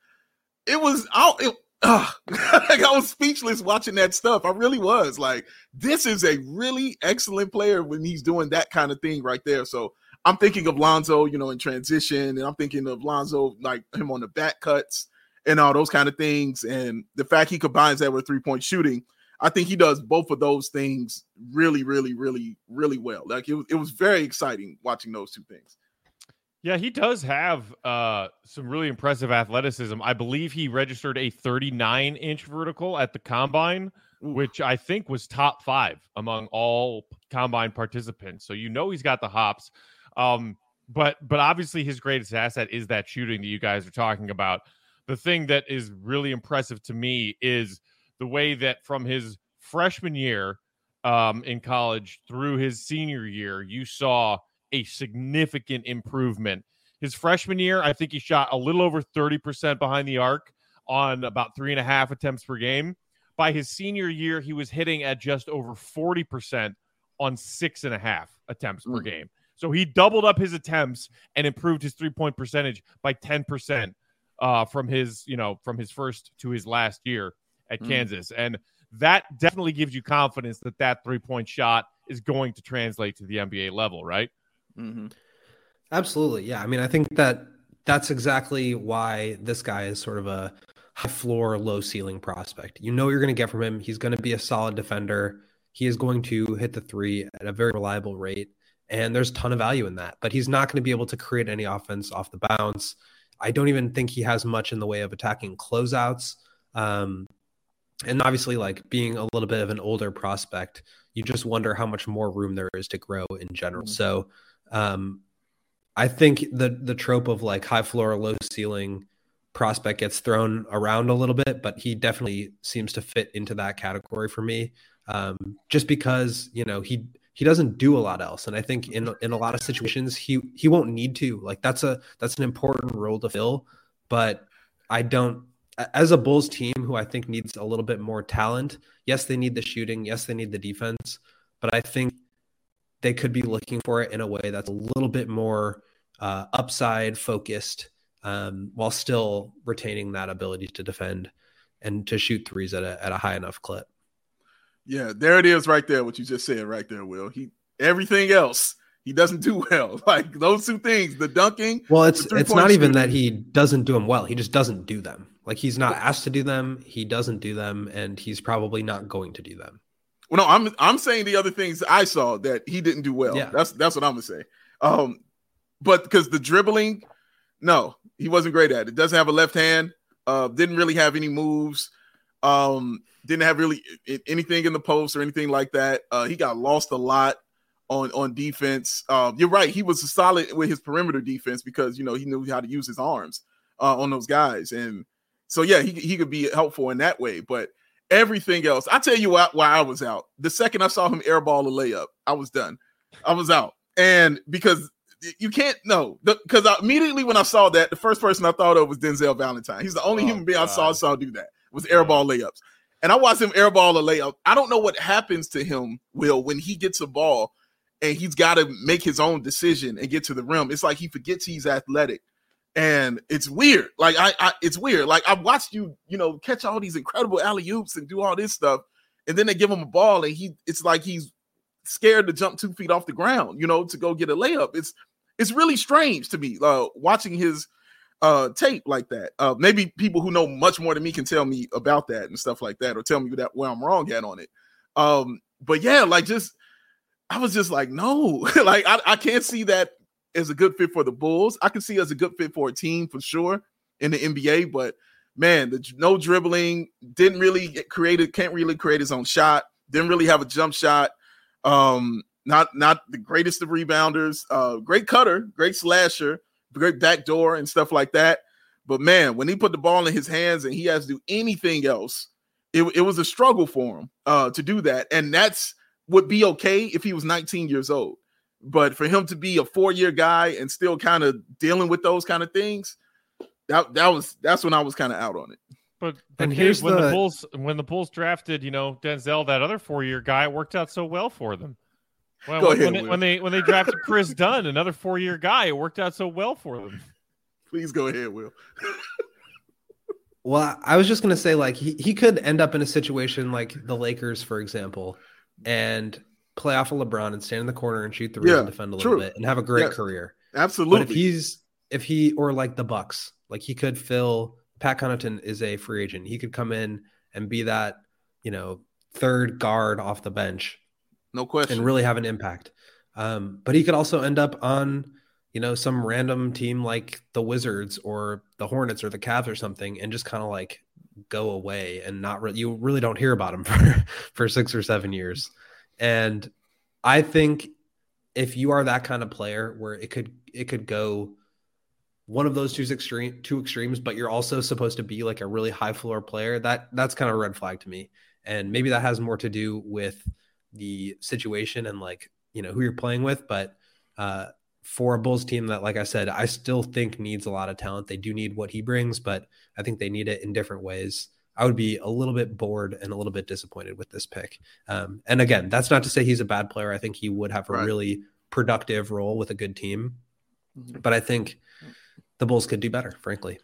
I was speechless watching that stuff. I really was this is a really excellent player when he's doing that kind of thing right there. So I'm thinking of Lonzo, in transition, and I'm thinking of Lonzo, him on the back cuts and all those kind of things. And the fact he combines that with 3-point shooting, I think he does both of those things really, really, really, really well. Like it was very exciting watching those two things. Yeah, he does have some really impressive athleticism. I believe he registered a 39-inch vertical at the combine, which I think was top 5 among all combine participants. So he's got the hops. But obviously his greatest asset is that shooting that you guys are talking about. The thing that is really impressive to me is the way that from his freshman year in college through his senior year, you saw a significant improvement. His freshman year, I think he shot a little over 30% behind the arc on about 3.5 attempts per game. By his senior year, he was hitting at just over 40% on 6.5 attempts per game. So he doubled up his attempts and improved his 3-point percentage by 10% from his first to his last year at Kansas. And that definitely gives you confidence that 3-point shot is going to translate to the NBA level, right? Mm-hmm. Absolutely. Yeah. I mean, I think that's exactly why this guy is sort of a high floor, low ceiling prospect. You're going to get from him. He's going to be a solid defender. He is going to hit the 3 at a very reliable rate. And there's a ton of value in that, but he's not going to be able to create any offense off the bounce. I don't even think he has much in the way of attacking closeouts. And obviously, like being a little bit of an older prospect, you just wonder how much more room there is to grow in general. So I think the trope of like high floor, low ceiling prospect gets thrown around a little bit, but he definitely seems to fit into that category for me. Just because, he doesn't do a lot else. And I think in a lot of situations, he won't need to. Like that's an important role to fill. But I don't, as a Bulls team who I think needs a little bit more talent, yes, they need the shooting. Yes, they need the defense. But I think they could be looking for it in a way that's a little bit more upside focused while still retaining that ability to defend and to shoot threes at a high enough clip. Yeah, there it is right there, what you just said right there, Will. Everything else, he doesn't do well. Like those two things, the dunking. Well, it's not even that he doesn't do them well. He just doesn't do them. Like he's not asked to do them. He doesn't do them, and he's probably not going to do them. Well, no, I'm saying the other things I saw that he didn't do well. Yeah. That's what I'm gonna say. But because the dribbling, no, he wasn't great at it. Doesn't have a left hand. Didn't really have any moves. Didn't have really anything in the post or anything like that. He got lost a lot on defense. You're right. He was solid with his perimeter defense because, he knew how to use his arms on those guys. And so, yeah, he could be helpful in that way. But everything else, I tell you why I was out. The second I saw him airball a layup, I was done. I was out. And because you can't know, because immediately when I saw that, the first person I thought of was Denzel Valentine. He's the only human being I saw do that was airball layups. And I watched him airball a layup. I don't know what happens to him, Will, when he gets a ball and he's got to make his own decision and get to the rim. It's like he forgets he's athletic. And it's weird. Like it's weird. Like I've watched you, catch all these incredible alley-oops and do all this stuff. And then they give him a ball and it's like he's scared to jump 2 feet off the ground, to go get a layup. It's really strange to me watching his tape like that. Maybe people who know much more than me can tell me about that and stuff like that, or tell me where I'm wrong at on it. But yeah, I was just like, no, like I can't see that as a good fit for the Bulls. I can see as a good fit for a team for sure in the NBA, but man, no dribbling, can't really create his own shot, didn't really have a jump shot. Not the greatest of rebounders, great cutter, great slasher, great backdoor and stuff like that. But man, when he put the ball in his hands and he has to do anything else, it was a struggle for him to do that. And would be okay if he was 19 years old. But for him to be a 4-year guy and still kind of dealing with those kind of things, that's when I was kind of out on it. But here's when the Bulls drafted, Denzel, that other 4-year guy, it worked out so well for them. Well, when they drafted Chris Dunn, another 4-year guy, it worked out so well for them. Please go ahead, Will. Well, I was just going to say, like, he could end up in a situation like the Lakers, for example, and play off of LeBron and stand in the corner and shoot threes and defend a little bit and have a great career. Absolutely. But if he or like the Bucks, like he could fill. Pat Connaughton is a free agent. He could come in and be that, third guard off the bench No question. and really have an impact. But he could also end up on, some random team like the Wizards or the Hornets or the Cavs or something, and just kind of like go away and you really don't hear about him for 6 or 7 years. And I think if you are that kind of player where it could go one of those two extremes, but you're also supposed to be like a really high floor player, that's kind of a red flag to me. And maybe that has more to do with the situation and like, who you're playing with. But for a Bulls team that, like I said, I still think needs a lot of talent. They do need what he brings, but I think they need it in different ways. I would be a little bit bored and a little bit disappointed with this pick. And again, that's not to say he's a bad player. I think he would have a really productive role with a good team. But I think the Bulls could do better, frankly.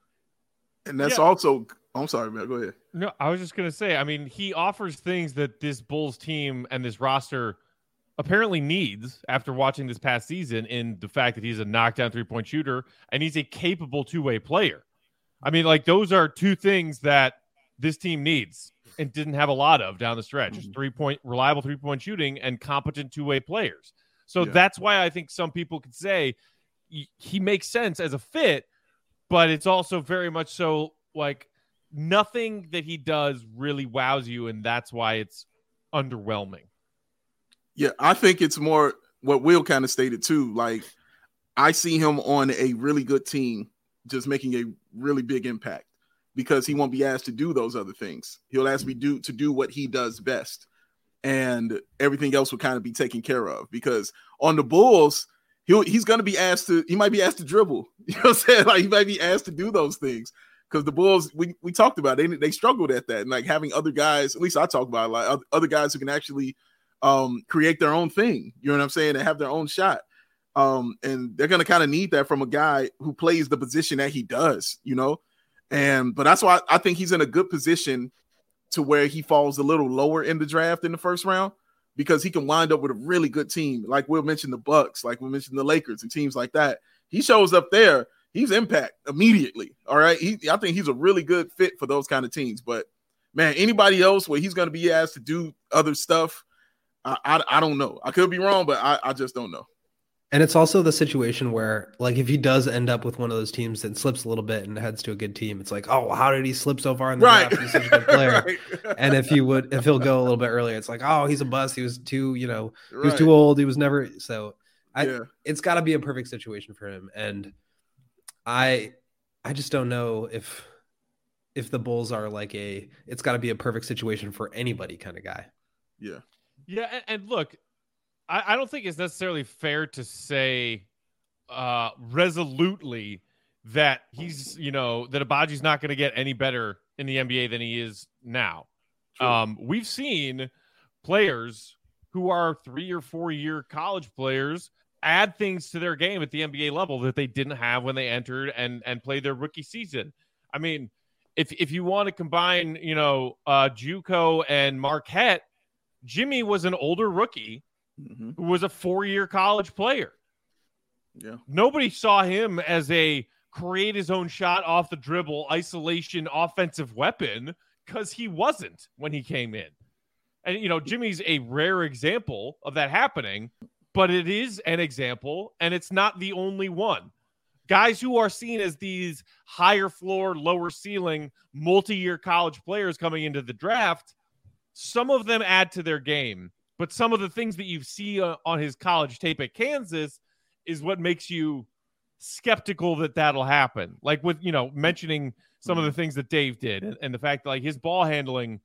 And that's also – I'm sorry, man. Go ahead. No, I was just going to say, I mean, he offers things that this Bulls team and this roster apparently needs after watching this past season, in the fact that he's a knockdown three-point shooter and he's a capable two-way player. I mean, like, those are two things that this team needs and didn't have a lot of down the stretch. Just reliable three-point shooting and competent two-way players. So that's why I think some people could say he makes sense as a fit, but it's also very much so like nothing that he does really wows you, and that's why it's underwhelming. Yeah, I think it's more what Will kind of stated too. Like, I see him on a really good team just making a really big impact because he won't be asked to do those other things. He'll ask me to do what he does best, and everything else will kind of be taken care of. Because on the Bulls, he's going to be asked to – he might be asked to dribble. You know what I'm saying? Like, he might be asked to do those things. Because the Bulls, we talked about it, they struggled at that. And like having other guys, at least I talk about it, like other guys who can actually create their own thing, you know what I'm saying, and have their own shot. And they're going to kind of need that from a guy who plays the position that he does, but that's why I think he's in a good position to where he falls a little lower in the draft in the first round, because he can wind up with a really good team. Like we'll mention the Bucks, like we mentioned the Lakers and teams like that. He shows up there. He's impact immediately. All right. I think he's a really good fit for those kind of teams. But man, anybody else where he's going to be asked to do other stuff, I don't know. I could be wrong, but I just don't know. And it's also the situation where, like, if he does end up with one of those teams that slips a little bit and heads to a good team, it's like, oh, how did he slip so far in the draft? He's such a good player. Right. And if he'll go a little bit earlier, it's like, oh, he's a bust. He was too, he was too old. He was never. So it's got to be a perfect situation for him. And I just don't know if the Bulls are like it's got to be a perfect situation for anybody kind of guy. Yeah. Yeah. And look, I don't think it's necessarily fair to say resolutely that he's, that Abaji's not going to get any better in the NBA than he is now. We've seen players who are 3 or 4 year college players add things to their game at the NBA level that they didn't have when they entered and played their rookie season. I mean, if you want to combine, JUCO and Marquette, Jimmy was an older rookie who was a 4-year college player. Yeah. Nobody saw him as a create his own shot off the dribble, isolation, offensive weapon, because he wasn't when he came in. And, Jimmy's a rare example of that happening, but it is an example, and it's not the only one. Guys who are seen as these higher floor, lower ceiling, multi-year college players coming into the draft, some of them add to their game. But some of the things that you see on his college tape at Kansas is what makes you skeptical that that'll happen. Like with, mentioning some of the things that Dave did and the fact that like his ball handling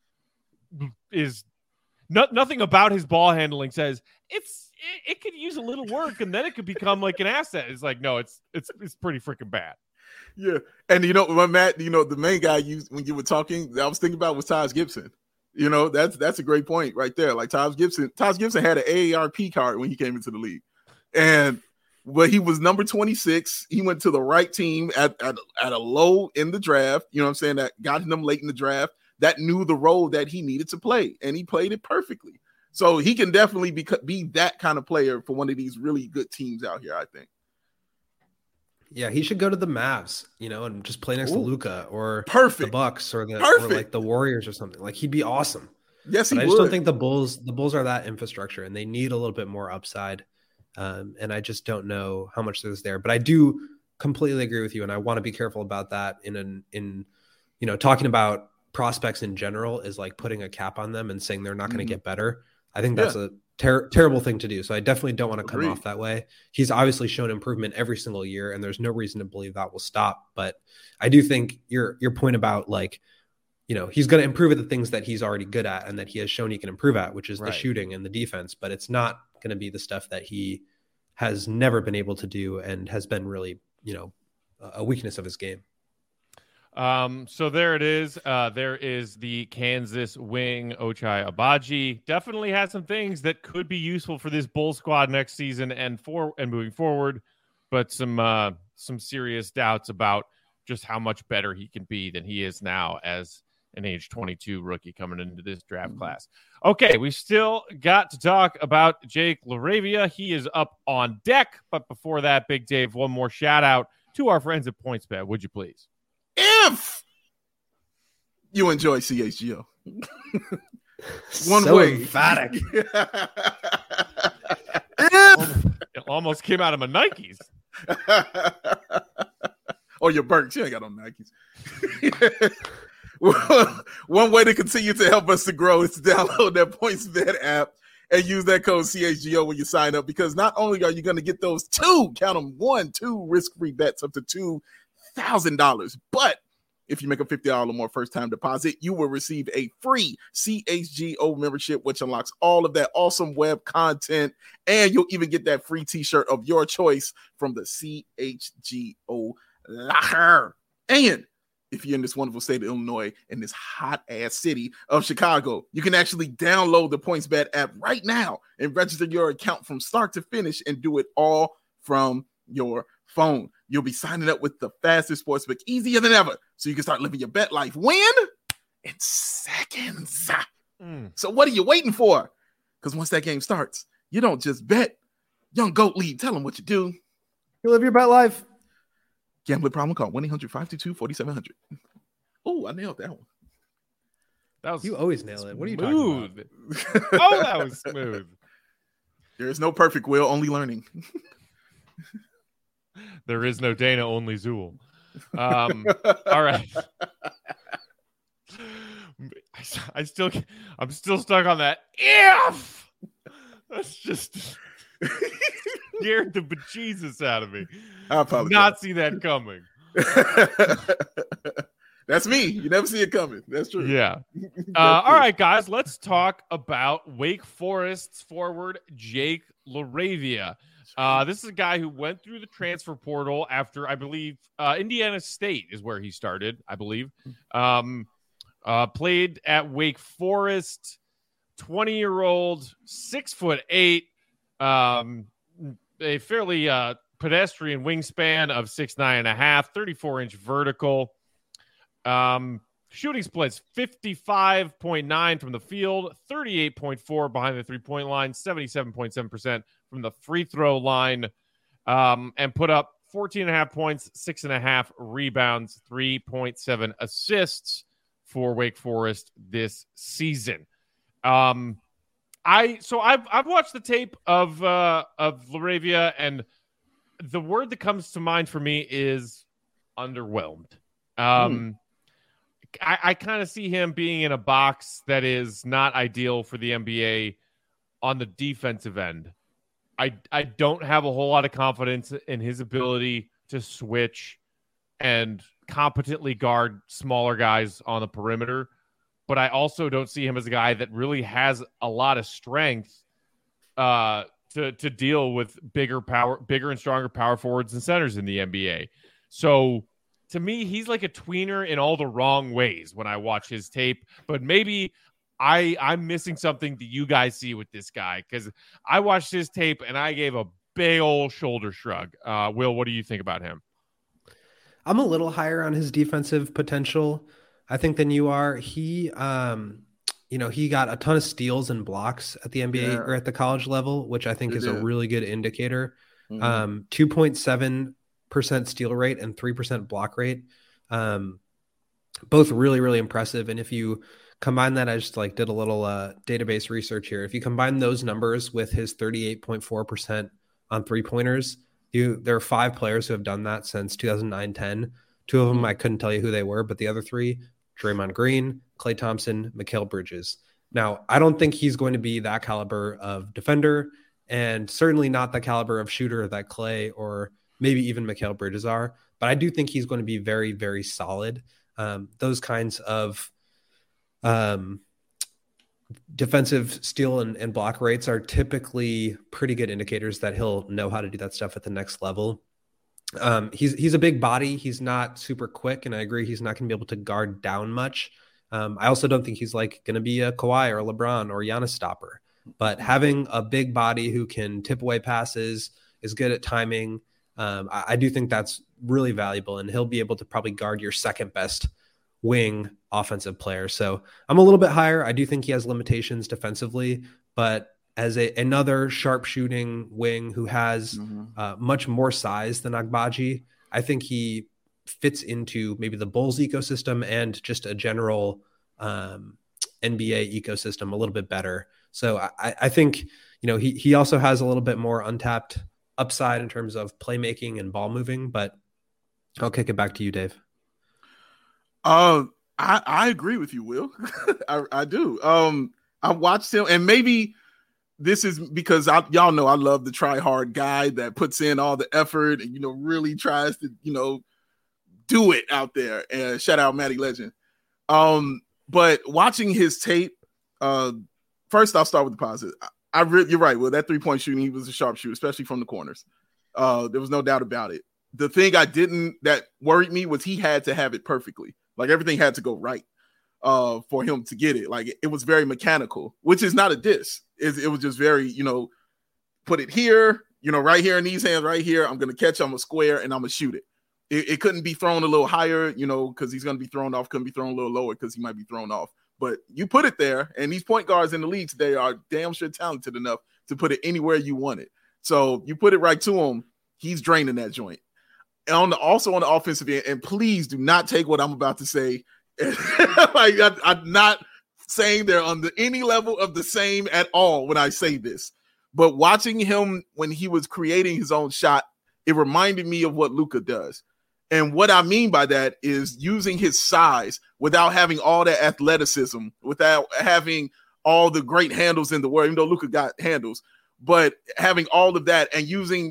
is nothing about his ball handling says it could use a little work and then it could become like an asset. It's like, no, it's pretty freaking bad. Yeah. And Matt, the main guy when you were talking, I was thinking about was Taj Gibson. That's a great point right there. Like Taj Gibson had an AARP card when he came into the league, but he was number 26. He went to the right team at a low in the draft. You know what I'm saying? That got him late in the draft. That knew the role that he needed to play, and he played it perfectly. So he can definitely be that kind of player for one of these really good teams out here, I think. Yeah, he should go to the Mavs, and just play next to Luka or perfect. the Bucks or like the Warriors or something. Like he'd be awesome. Yes, but I just don't think the Bulls are that infrastructure, and they need a little bit more upside. And I just don't know how much there's there. But I do completely agree with you, and I want to be careful about that. In talking about prospects in general is like putting a cap on them and saying they're not going to get better. I think that's a terrible thing to do. So I definitely don't want to come off that way. He's obviously shown improvement every single year, and there's no reason to believe that will stop. But I do think your point about like, he's going to improve at the things that he's already good at and that he has shown he can improve at, which is the shooting and the defense. But it's not going to be the stuff that he has never been able to do and has been really, a weakness of his game. So there it is. There is the Kansas wing, Ochai Agbaji. Definitely has some things that could be useful for this Bull squad next season and moving forward, but some serious doubts about just how much better he can be than he is now as an age 22 rookie coming into this draft class. Okay, we still got to talk about Jake LaRavia. He is up on deck, but before that, Big Dave, one more shout out to our friends at PointsBet, would you please? If you enjoy CHGO, one way emphatic. It almost came out of my Nikes. Oh, you're burnt. You ain't got no Nikes. One way to continue to help us to grow is to download that PointsBet app and use that code CHGO when you sign up, because not only are you going to get those two risk-free bets up to $2,000, but if you make a $50 or more first-time deposit, you will receive a free CHGO membership, which unlocks all of that awesome web content, and you'll even get that free t-shirt of your choice from the CHGO locker. And if you're in this wonderful state of Illinois, in this hot-ass city of Chicago, you can actually download the PointsBet app right now and register your account from start to finish and do it all from your phone. You'll be signing up with the fastest sportsbook, easier than ever, so you can start living your bet life. When? In seconds. So what are you waiting for? Because once that game starts, you don't just bet. Young Goat Lead, tell them what you do. You live your bet life. Gambling problem, call 1-800-522-4700. Oh, I nailed that one. That was you always nail it. What are you talking about? Oh, that was smooth. There is no perfect, Will, only learning. There is no Dana, only Zool. All right. I'm still stuck on that. If that's just scared the bejesus out of me. I apologize. Not see that coming. That's me. You never see it coming. That's true. Yeah. All right, guys. Let's talk about Wake Forest's forward Jake LaRavia. This is a guy who went through the transfer portal after, I believe, Indiana State is where he started, I believe. Played at Wake Forest, 20-year-old, 6'8", a fairly pedestrian wingspan of 6'9.5", 34-inch vertical. Shooting splits 55.9 from the field, 38.4 behind the three-point line, 77.7% from the free throw line, and put up 14.5 points, 6.5 rebounds, 3.7 assists for Wake Forest this season. I've watched the tape of LaRavia, and the word that comes to mind for me is underwhelmed. I kind of see him being in a box that is not ideal for the NBA on the defensive end. I don't have a whole lot of confidence in his ability to switch and competently guard smaller guys on the perimeter, but I also don't see him as a guy that really has a lot of strength to deal with bigger and stronger power forwards and centers in the NBA. So to me, he's like a tweener in all the wrong ways when I watch his tape, but maybe I'm missing something that you guys see with this guy, because I watched his tape and I gave a big old shoulder shrug. Will, what do you think about him? I'm a little higher on his defensive potential, I think, than you are. He, he got a ton of steals and blocks at the NBA or at the college level, which I think is a really good indicator. 2.7% steal rate and 3% block rate. Both really, really impressive. And if you Combine that, I just like did a little database research here. If you combine those numbers with his 38.4% on 3-pointers, there are 5 players who have done that since 2009-10. 2 of them, I couldn't tell you who they were, but the other 3, Draymond Green, Klay Thompson, Mikal Bridges. Now, I don't think he's going to be that caliber of defender, and certainly not the caliber of shooter that Klay or maybe even Mikal Bridges are, but I do think he's going to be very, very solid. Those kinds of defensive steal and block rates are typically pretty good indicators that he'll know how to do that stuff at the next level. He's a big body. He's not super quick, and I agree he's not going to be able to guard down much. I also don't think he's like going to be a Kawhi or a LeBron or Giannis stopper, but having a big body who can tip away passes, is good at timing, I do think that's really valuable, and he'll be able to probably guard your second best wing offensive player. So I'm a little bit higher. I do think he has limitations defensively, but as another sharp shooting wing who has much more size than Agbaji, I think he fits into maybe the Bulls ecosystem and just a general NBA ecosystem a little bit better. So I think, he also has a little bit more untapped upside in terms of playmaking and ball moving, but I'll kick it back to you, Dave. I agree with you, Will. I do. I watched him, and maybe this is because y'all know I love the try hard guy that puts in all the effort and, really tries to, do it out there. And shout out Matty Legend. But watching his tape, first I'll start with the positive. You're right, Will. That 3-point shooting, he was a sharpshooter, especially from the corners. There was no doubt about it. The thing that worried me was he had to have it perfectly. Like everything had to go right for him to get it. Like it was very mechanical, which is not a diss. It was just very, put it here, right here in these hands, right here. I'm going to catch, I'm going to square, and I'm going to shoot it. It couldn't be thrown a little higher, because he's going to be thrown off. Couldn't be thrown a little lower because he might be thrown off. But you put it there, and these point guards in the league today are damn sure talented enough to put it anywhere you want it. So you put it right to him, he's draining that joint. And also on the offensive end, and please do not take what I'm about to say. I'm not saying they're on any level of the same at all when I say this. But watching him when he was creating his own shot, it reminded me of what Luka does. And what I mean by that is using his size without having all that athleticism, without having all the great handles in the world, even though Luka got handles, but having all of that and using,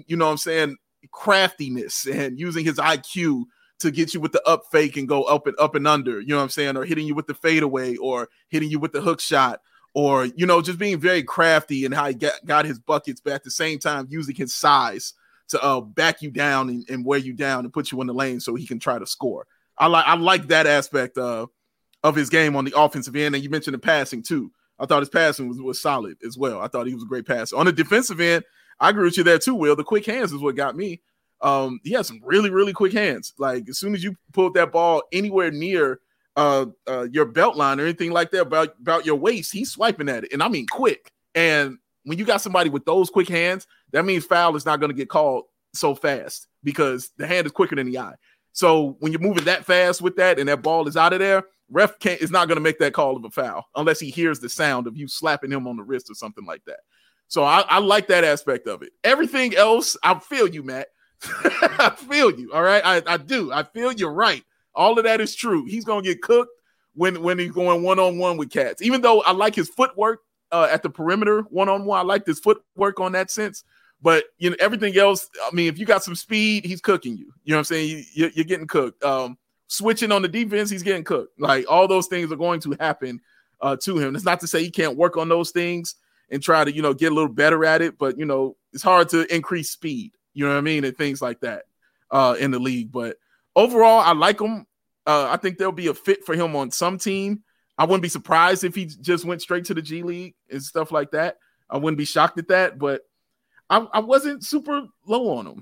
craftiness and using his IQ to get you with the up fake and go up and under, or hitting you with the fadeaway or hitting you with the hook shot or, just being very crafty and how he got his buckets, but at the same time using his size to back you down and wear you down and put you in the lane so he can try to score. I like that aspect of his game on the offensive end. And you mentioned the passing too. I thought his passing was solid as well. I thought he was a great passer. On the defensive end, I agree with you there too, Will. The quick hands is what got me. He has some really, really quick hands. Like as soon as you pulled that ball anywhere near your belt line or anything like that about your waist, he's swiping at it. And I mean quick. And when you got somebody with those quick hands, that means foul is not going to get called so fast because the hand is quicker than the eye. So when you're moving that fast with that and that ball is out of there, ref is not going to make that call of a foul unless he hears the sound of you slapping him on the wrist or something like that. So I like that aspect of it. Everything else, I feel you, Matt. I feel you. All right. I do. I feel you're right. All of that is true. He's going to get cooked when he's going one-on-one with cats. Even though I like his footwork at the perimeter one-on-one, I like this footwork on that sense. But everything else, I mean, if you got some speed, he's cooking you. You know what I'm saying? You're getting cooked. Switching on the defense, he's getting cooked. Like all those things are going to happen to him. It's not to say he can't work on those things and try to, get a little better at it. But, it's hard to increase speed, you know what I mean? And things like that in the league. But overall, I like him. I think there'll be a fit for him on some team. I wouldn't be surprised if he just went straight to the G League and stuff like that. I wouldn't be shocked at that. But I wasn't super low on him.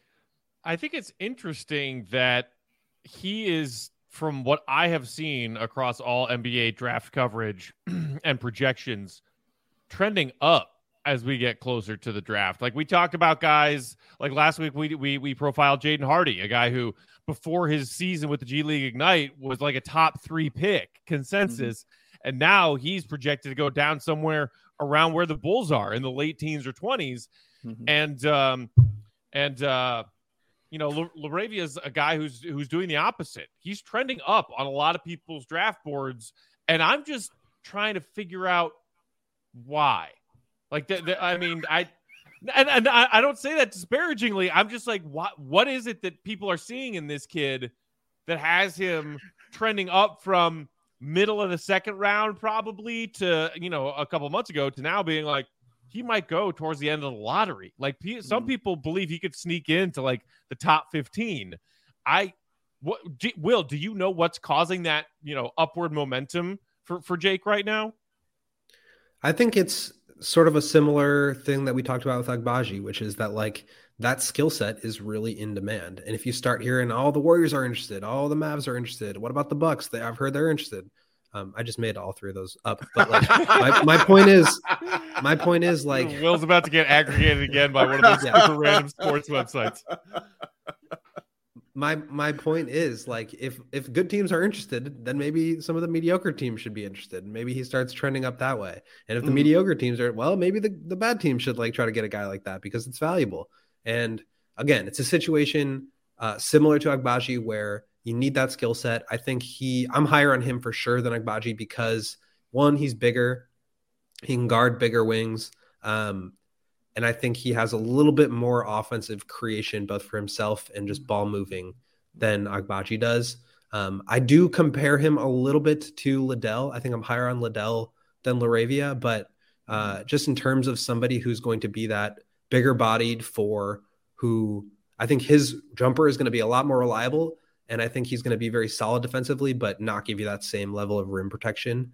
I think it's interesting that he is, from what I have seen across all NBA draft coverage and projections, trending up as we get closer to the draft. Like we talked about guys like last week, we profiled Jaden Hardy, a guy who before his season with the G League Ignite was like a top 3 pick consensus. And now he's projected to go down somewhere around where the Bulls are in the late teens or 20s. Mm-hmm. LaRavia is a guy who's doing the opposite. He's trending up on a lot of people's draft boards, and I'm just trying to figure out why. Like, I don't say that disparagingly. I'm just like, what is it that people are seeing in this kid that has him trending up from middle of the second round probably to, a couple months ago to now being like, he might go towards the end of the lottery. Like some people believe he could sneak into like the top 15. Will, do you know what's causing that, upward momentum for Jake right now? I think it's sort of a similar thing that we talked about with Agbaji, which is that like that skill set is really in demand. And if you start hearing all the Warriors are interested, all the Mavs are interested, what about the Bucks? I've heard they're interested. I just made all three of those up, but like my point is like Will's about to get aggregated again by one of those super random sports websites. My point is like if good teams are interested, then maybe some of the mediocre teams should be interested. Maybe he starts trending up that way. And if the mediocre teams are, well, maybe the bad team should like try to get a guy like that because it's valuable. And again, it's a situation similar to Agbaji where you need that skill set. I think I'm higher on him for sure than Agbaji because one, he's bigger. He can guard bigger wings. And I think he has a little bit more offensive creation, both for himself and just ball moving than Agbaji does. I do compare him a little bit to Liddell. I think I'm higher on Liddell than LaRavia, but just in terms of somebody who's going to be that bigger bodied who I think his jumper is going to be a lot more reliable. And I think he's going to be very solid defensively, but not give you that same level of rim protection.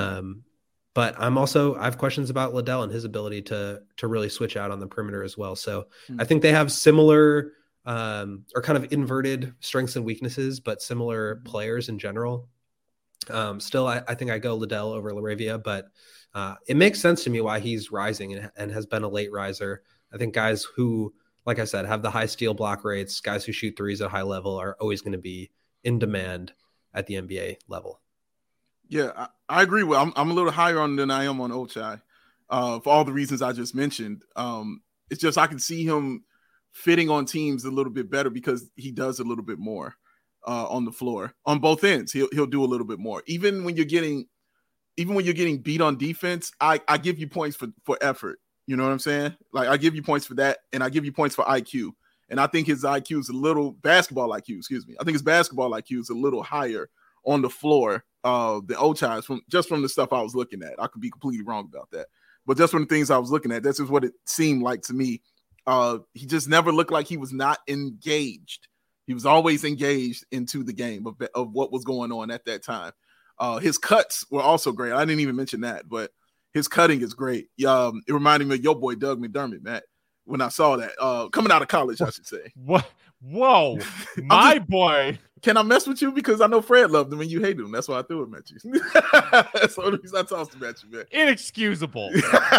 But I have questions about Liddell and his ability to really switch out on the perimeter as well. So I think they have similar or kind of inverted strengths and weaknesses, but similar players in general. Still, I think I go Liddell over LaRavia, but it makes sense to me why he's rising and has been a late riser. I think guys who, like I said, have the high steal block rates, guys who shoot threes at high level are always going to be in demand at the NBA level. Yeah, I agree with. I'm a little higher on than I am on Ochai for all the reasons I just mentioned. It's just I can see him fitting on teams a little bit better because he does a little bit more on the floor on both ends. He'll do a little bit more. Even when you're getting beat on defense, I give you points for effort. You know what I'm saying? Like I give you points for that, and I give you points for IQ. And I think his IQ is basketball IQ. Excuse me. I think his basketball IQ is a little higher on the floor. The Ochai's from the stuff I was looking at. I could be completely wrong about that, but just from the things I was looking at, that's just what it seemed like to me. He just never looked like he was not engaged. He was always engaged into the game of what was going on at that time. His cuts were also great. I didn't even mention that, but his cutting is great. It reminded me of your boy Doug McDermott, Matt. When I saw that coming out of college, I should say. What? Whoa, my boy. Can I mess with you? Because I know Fred loved him and you hate him. That's why I threw him at you. That's the only reason I tossed him at you, man. Inexcusable.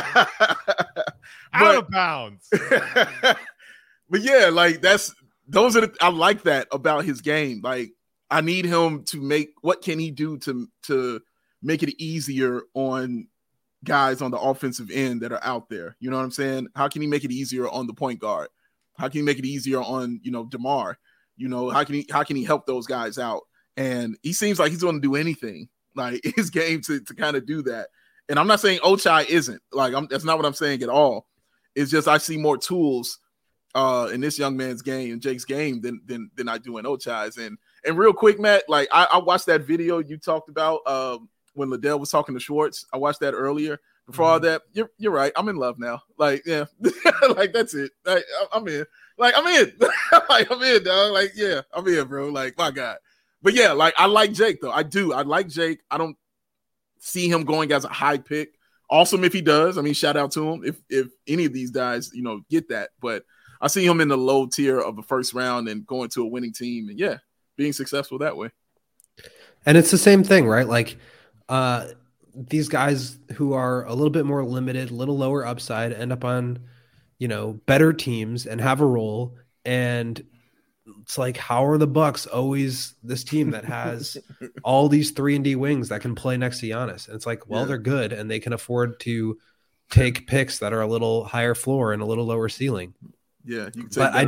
Out of bounds. But yeah, like I like that about his game. Like I need him to what can he do to make it easier on guys on the offensive end that are out there? You know what I'm saying? How can he make it easier on the point guard? How can he make it easier on, DeMar? How can he help those guys out? And he seems like he's going to do anything like his game to kind of do that. And I'm not saying Ochai isn't that's not what I'm saying at all. It's just, I see more tools in this young man's game and Jake's game than I do in Ochai's. And real quick, Matt, like I watched that video you talked about when Liddell was talking to Schwartz. I watched that earlier. Before all that, you're right. I'm in love now. Like, yeah, like that's it. Like, I'm in. Like, I'm in. Like, I'm in, dog. Like, yeah, I'm in, bro. Like, my God. But yeah, like I like Jake though. I do. I like Jake. I don't see him going as a high pick. Awesome if he does. I mean, shout out to him if any of these guys, get that. But I see him in the low tier of the first round and going to a winning team and yeah, being successful that way. And it's the same thing, right? Like, these guys who are a little bit more limited, a little lower upside, end up on, better teams and have a role. And it's like, how are the Bucks always this team that has all these 3-and-D wings that can play next to Giannis? And it's like, well, they're good and they can afford to take picks that are a little higher floor and a little lower ceiling. Yeah, you can take but I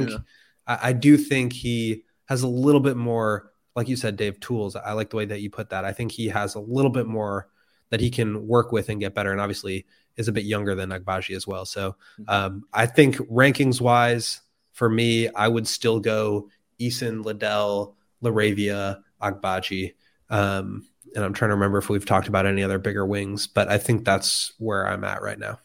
do think he has a little bit more, like you said, Dave, tools. I like the way that you put that. I think he has a little bit more that he can work with and get better. And obviously is a bit younger than Agbaji as well. So I think rankings wise, for me, I would still go Eason, Liddell, LaRavia, Agbaji. And I'm trying to remember if we've talked about any other bigger wings, but I think that's where I'm at right now.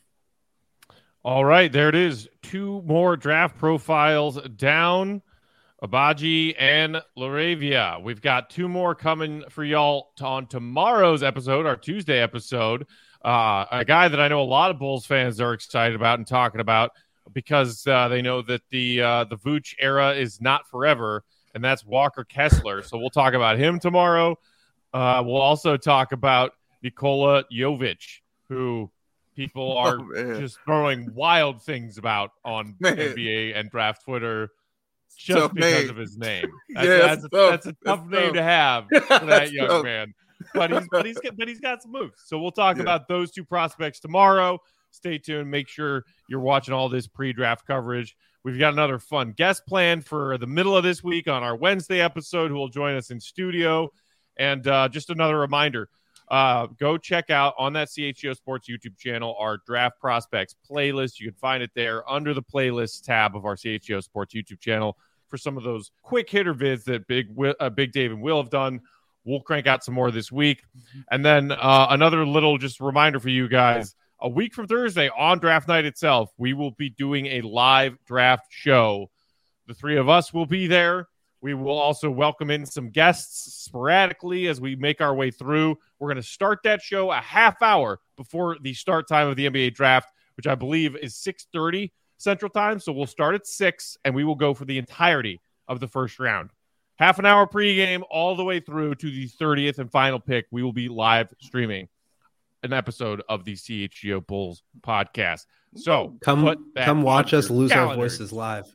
All right, there it is. 2 more draft profiles down. Agbaji and LaRavia. We've got 2 more coming for y'all on tomorrow's episode, our Tuesday episode. A guy that I know a lot of Bulls fans are excited about and talking about because they know that the Vooch era is not forever, and that's Walker Kessler. So we'll talk about him tomorrow. We'll also talk about Nikola Jovic, who people are just throwing wild things about on NBA and draft Twitter just because of his name. That's a tough name to have for that young man. But he's got some moves. So we'll talk about those 2 prospects tomorrow. Stay tuned. Make sure you're watching all this pre-draft coverage. We've got another fun guest planned for the middle of this week on our Wednesday episode, who will join us in studio. And just another reminder, go check out on that CHGO Sports YouTube channel our draft prospects playlist. You can find it there under the playlist tab of our CHGO Sports YouTube channel for some of those quick hitter vids that Big Dave and Will have done. We'll crank out some more this week. And then another little just reminder for you guys, a week from Thursday on draft night itself, we will be doing a live draft show. The 3 of us will be there. We will also welcome in some guests sporadically as we make our way through. We're going to start that show a half hour before the start time of the NBA draft, which I believe is 6:30 Central Time. So we'll start at 6, and we will go for the entirety of the first round. Half an hour pregame all the way through to the 30th and final pick. We will be live streaming an episode of the CHGO Bulls podcast. So come watch us lose our voices live.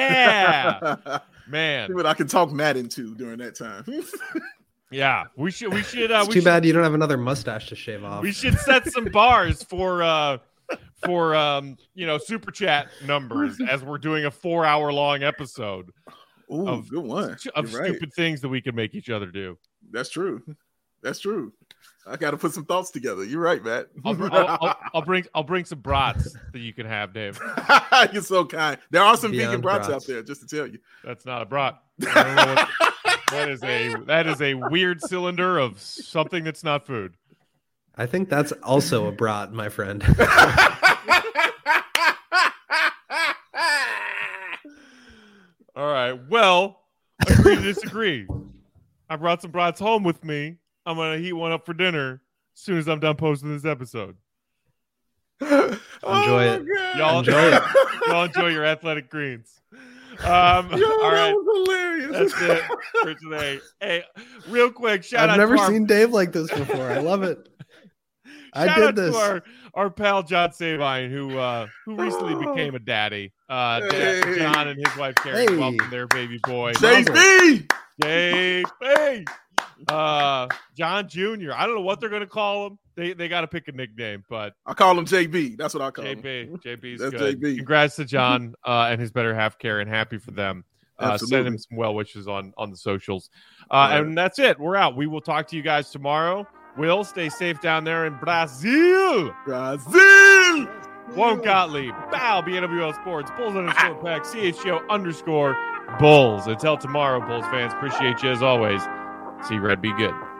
Yeah, man. See what I can talk Matt into during that time. Yeah, we should. It's too bad you don't have another mustache to shave off. We should set some bars for super chat numbers as we're doing a 4-hour long episode. Ooh, good one. Of stupid things that we can make each other do. That's true. I got to put some thoughts together. You're right, Matt. I'll bring some brats that you can have, Dave. You're so kind. There are some vegan brats out there, just to tell you. That's not a brat. That is a weird cylinder of something that's not food. I think that's also a brat, my friend. All right. Well, agree to disagree. I brought some brats home with me. I'm going to heat one up for dinner as soon as I'm done posting this episode. Enjoy it. Y'all enjoy your athletic greens. All right. That was hilarious. That's it for today. Hey, real quick, shout out. I've never seen Dave like this before. I love it. I did this. To our pal John Sabine, who recently became a daddy. John and his wife Karen welcomed their baby boy. JB! John Jr. I don't know what they're going to call him. They got to pick a nickname, but I call him JB. That's what I call him. JB's That's good. JB. Congrats to John and his better half, Karen. Happy for them. Send him some well wishes on the socials. And that's it. We're out. We will talk to you guys tomorrow. Will, stay safe down there in Brazil. Juan Gottlieb. Bow, BNWL Sports. Bulls _pack. CHGO _Bulls. Until tomorrow, Bulls fans. Appreciate you as always. See Red be good.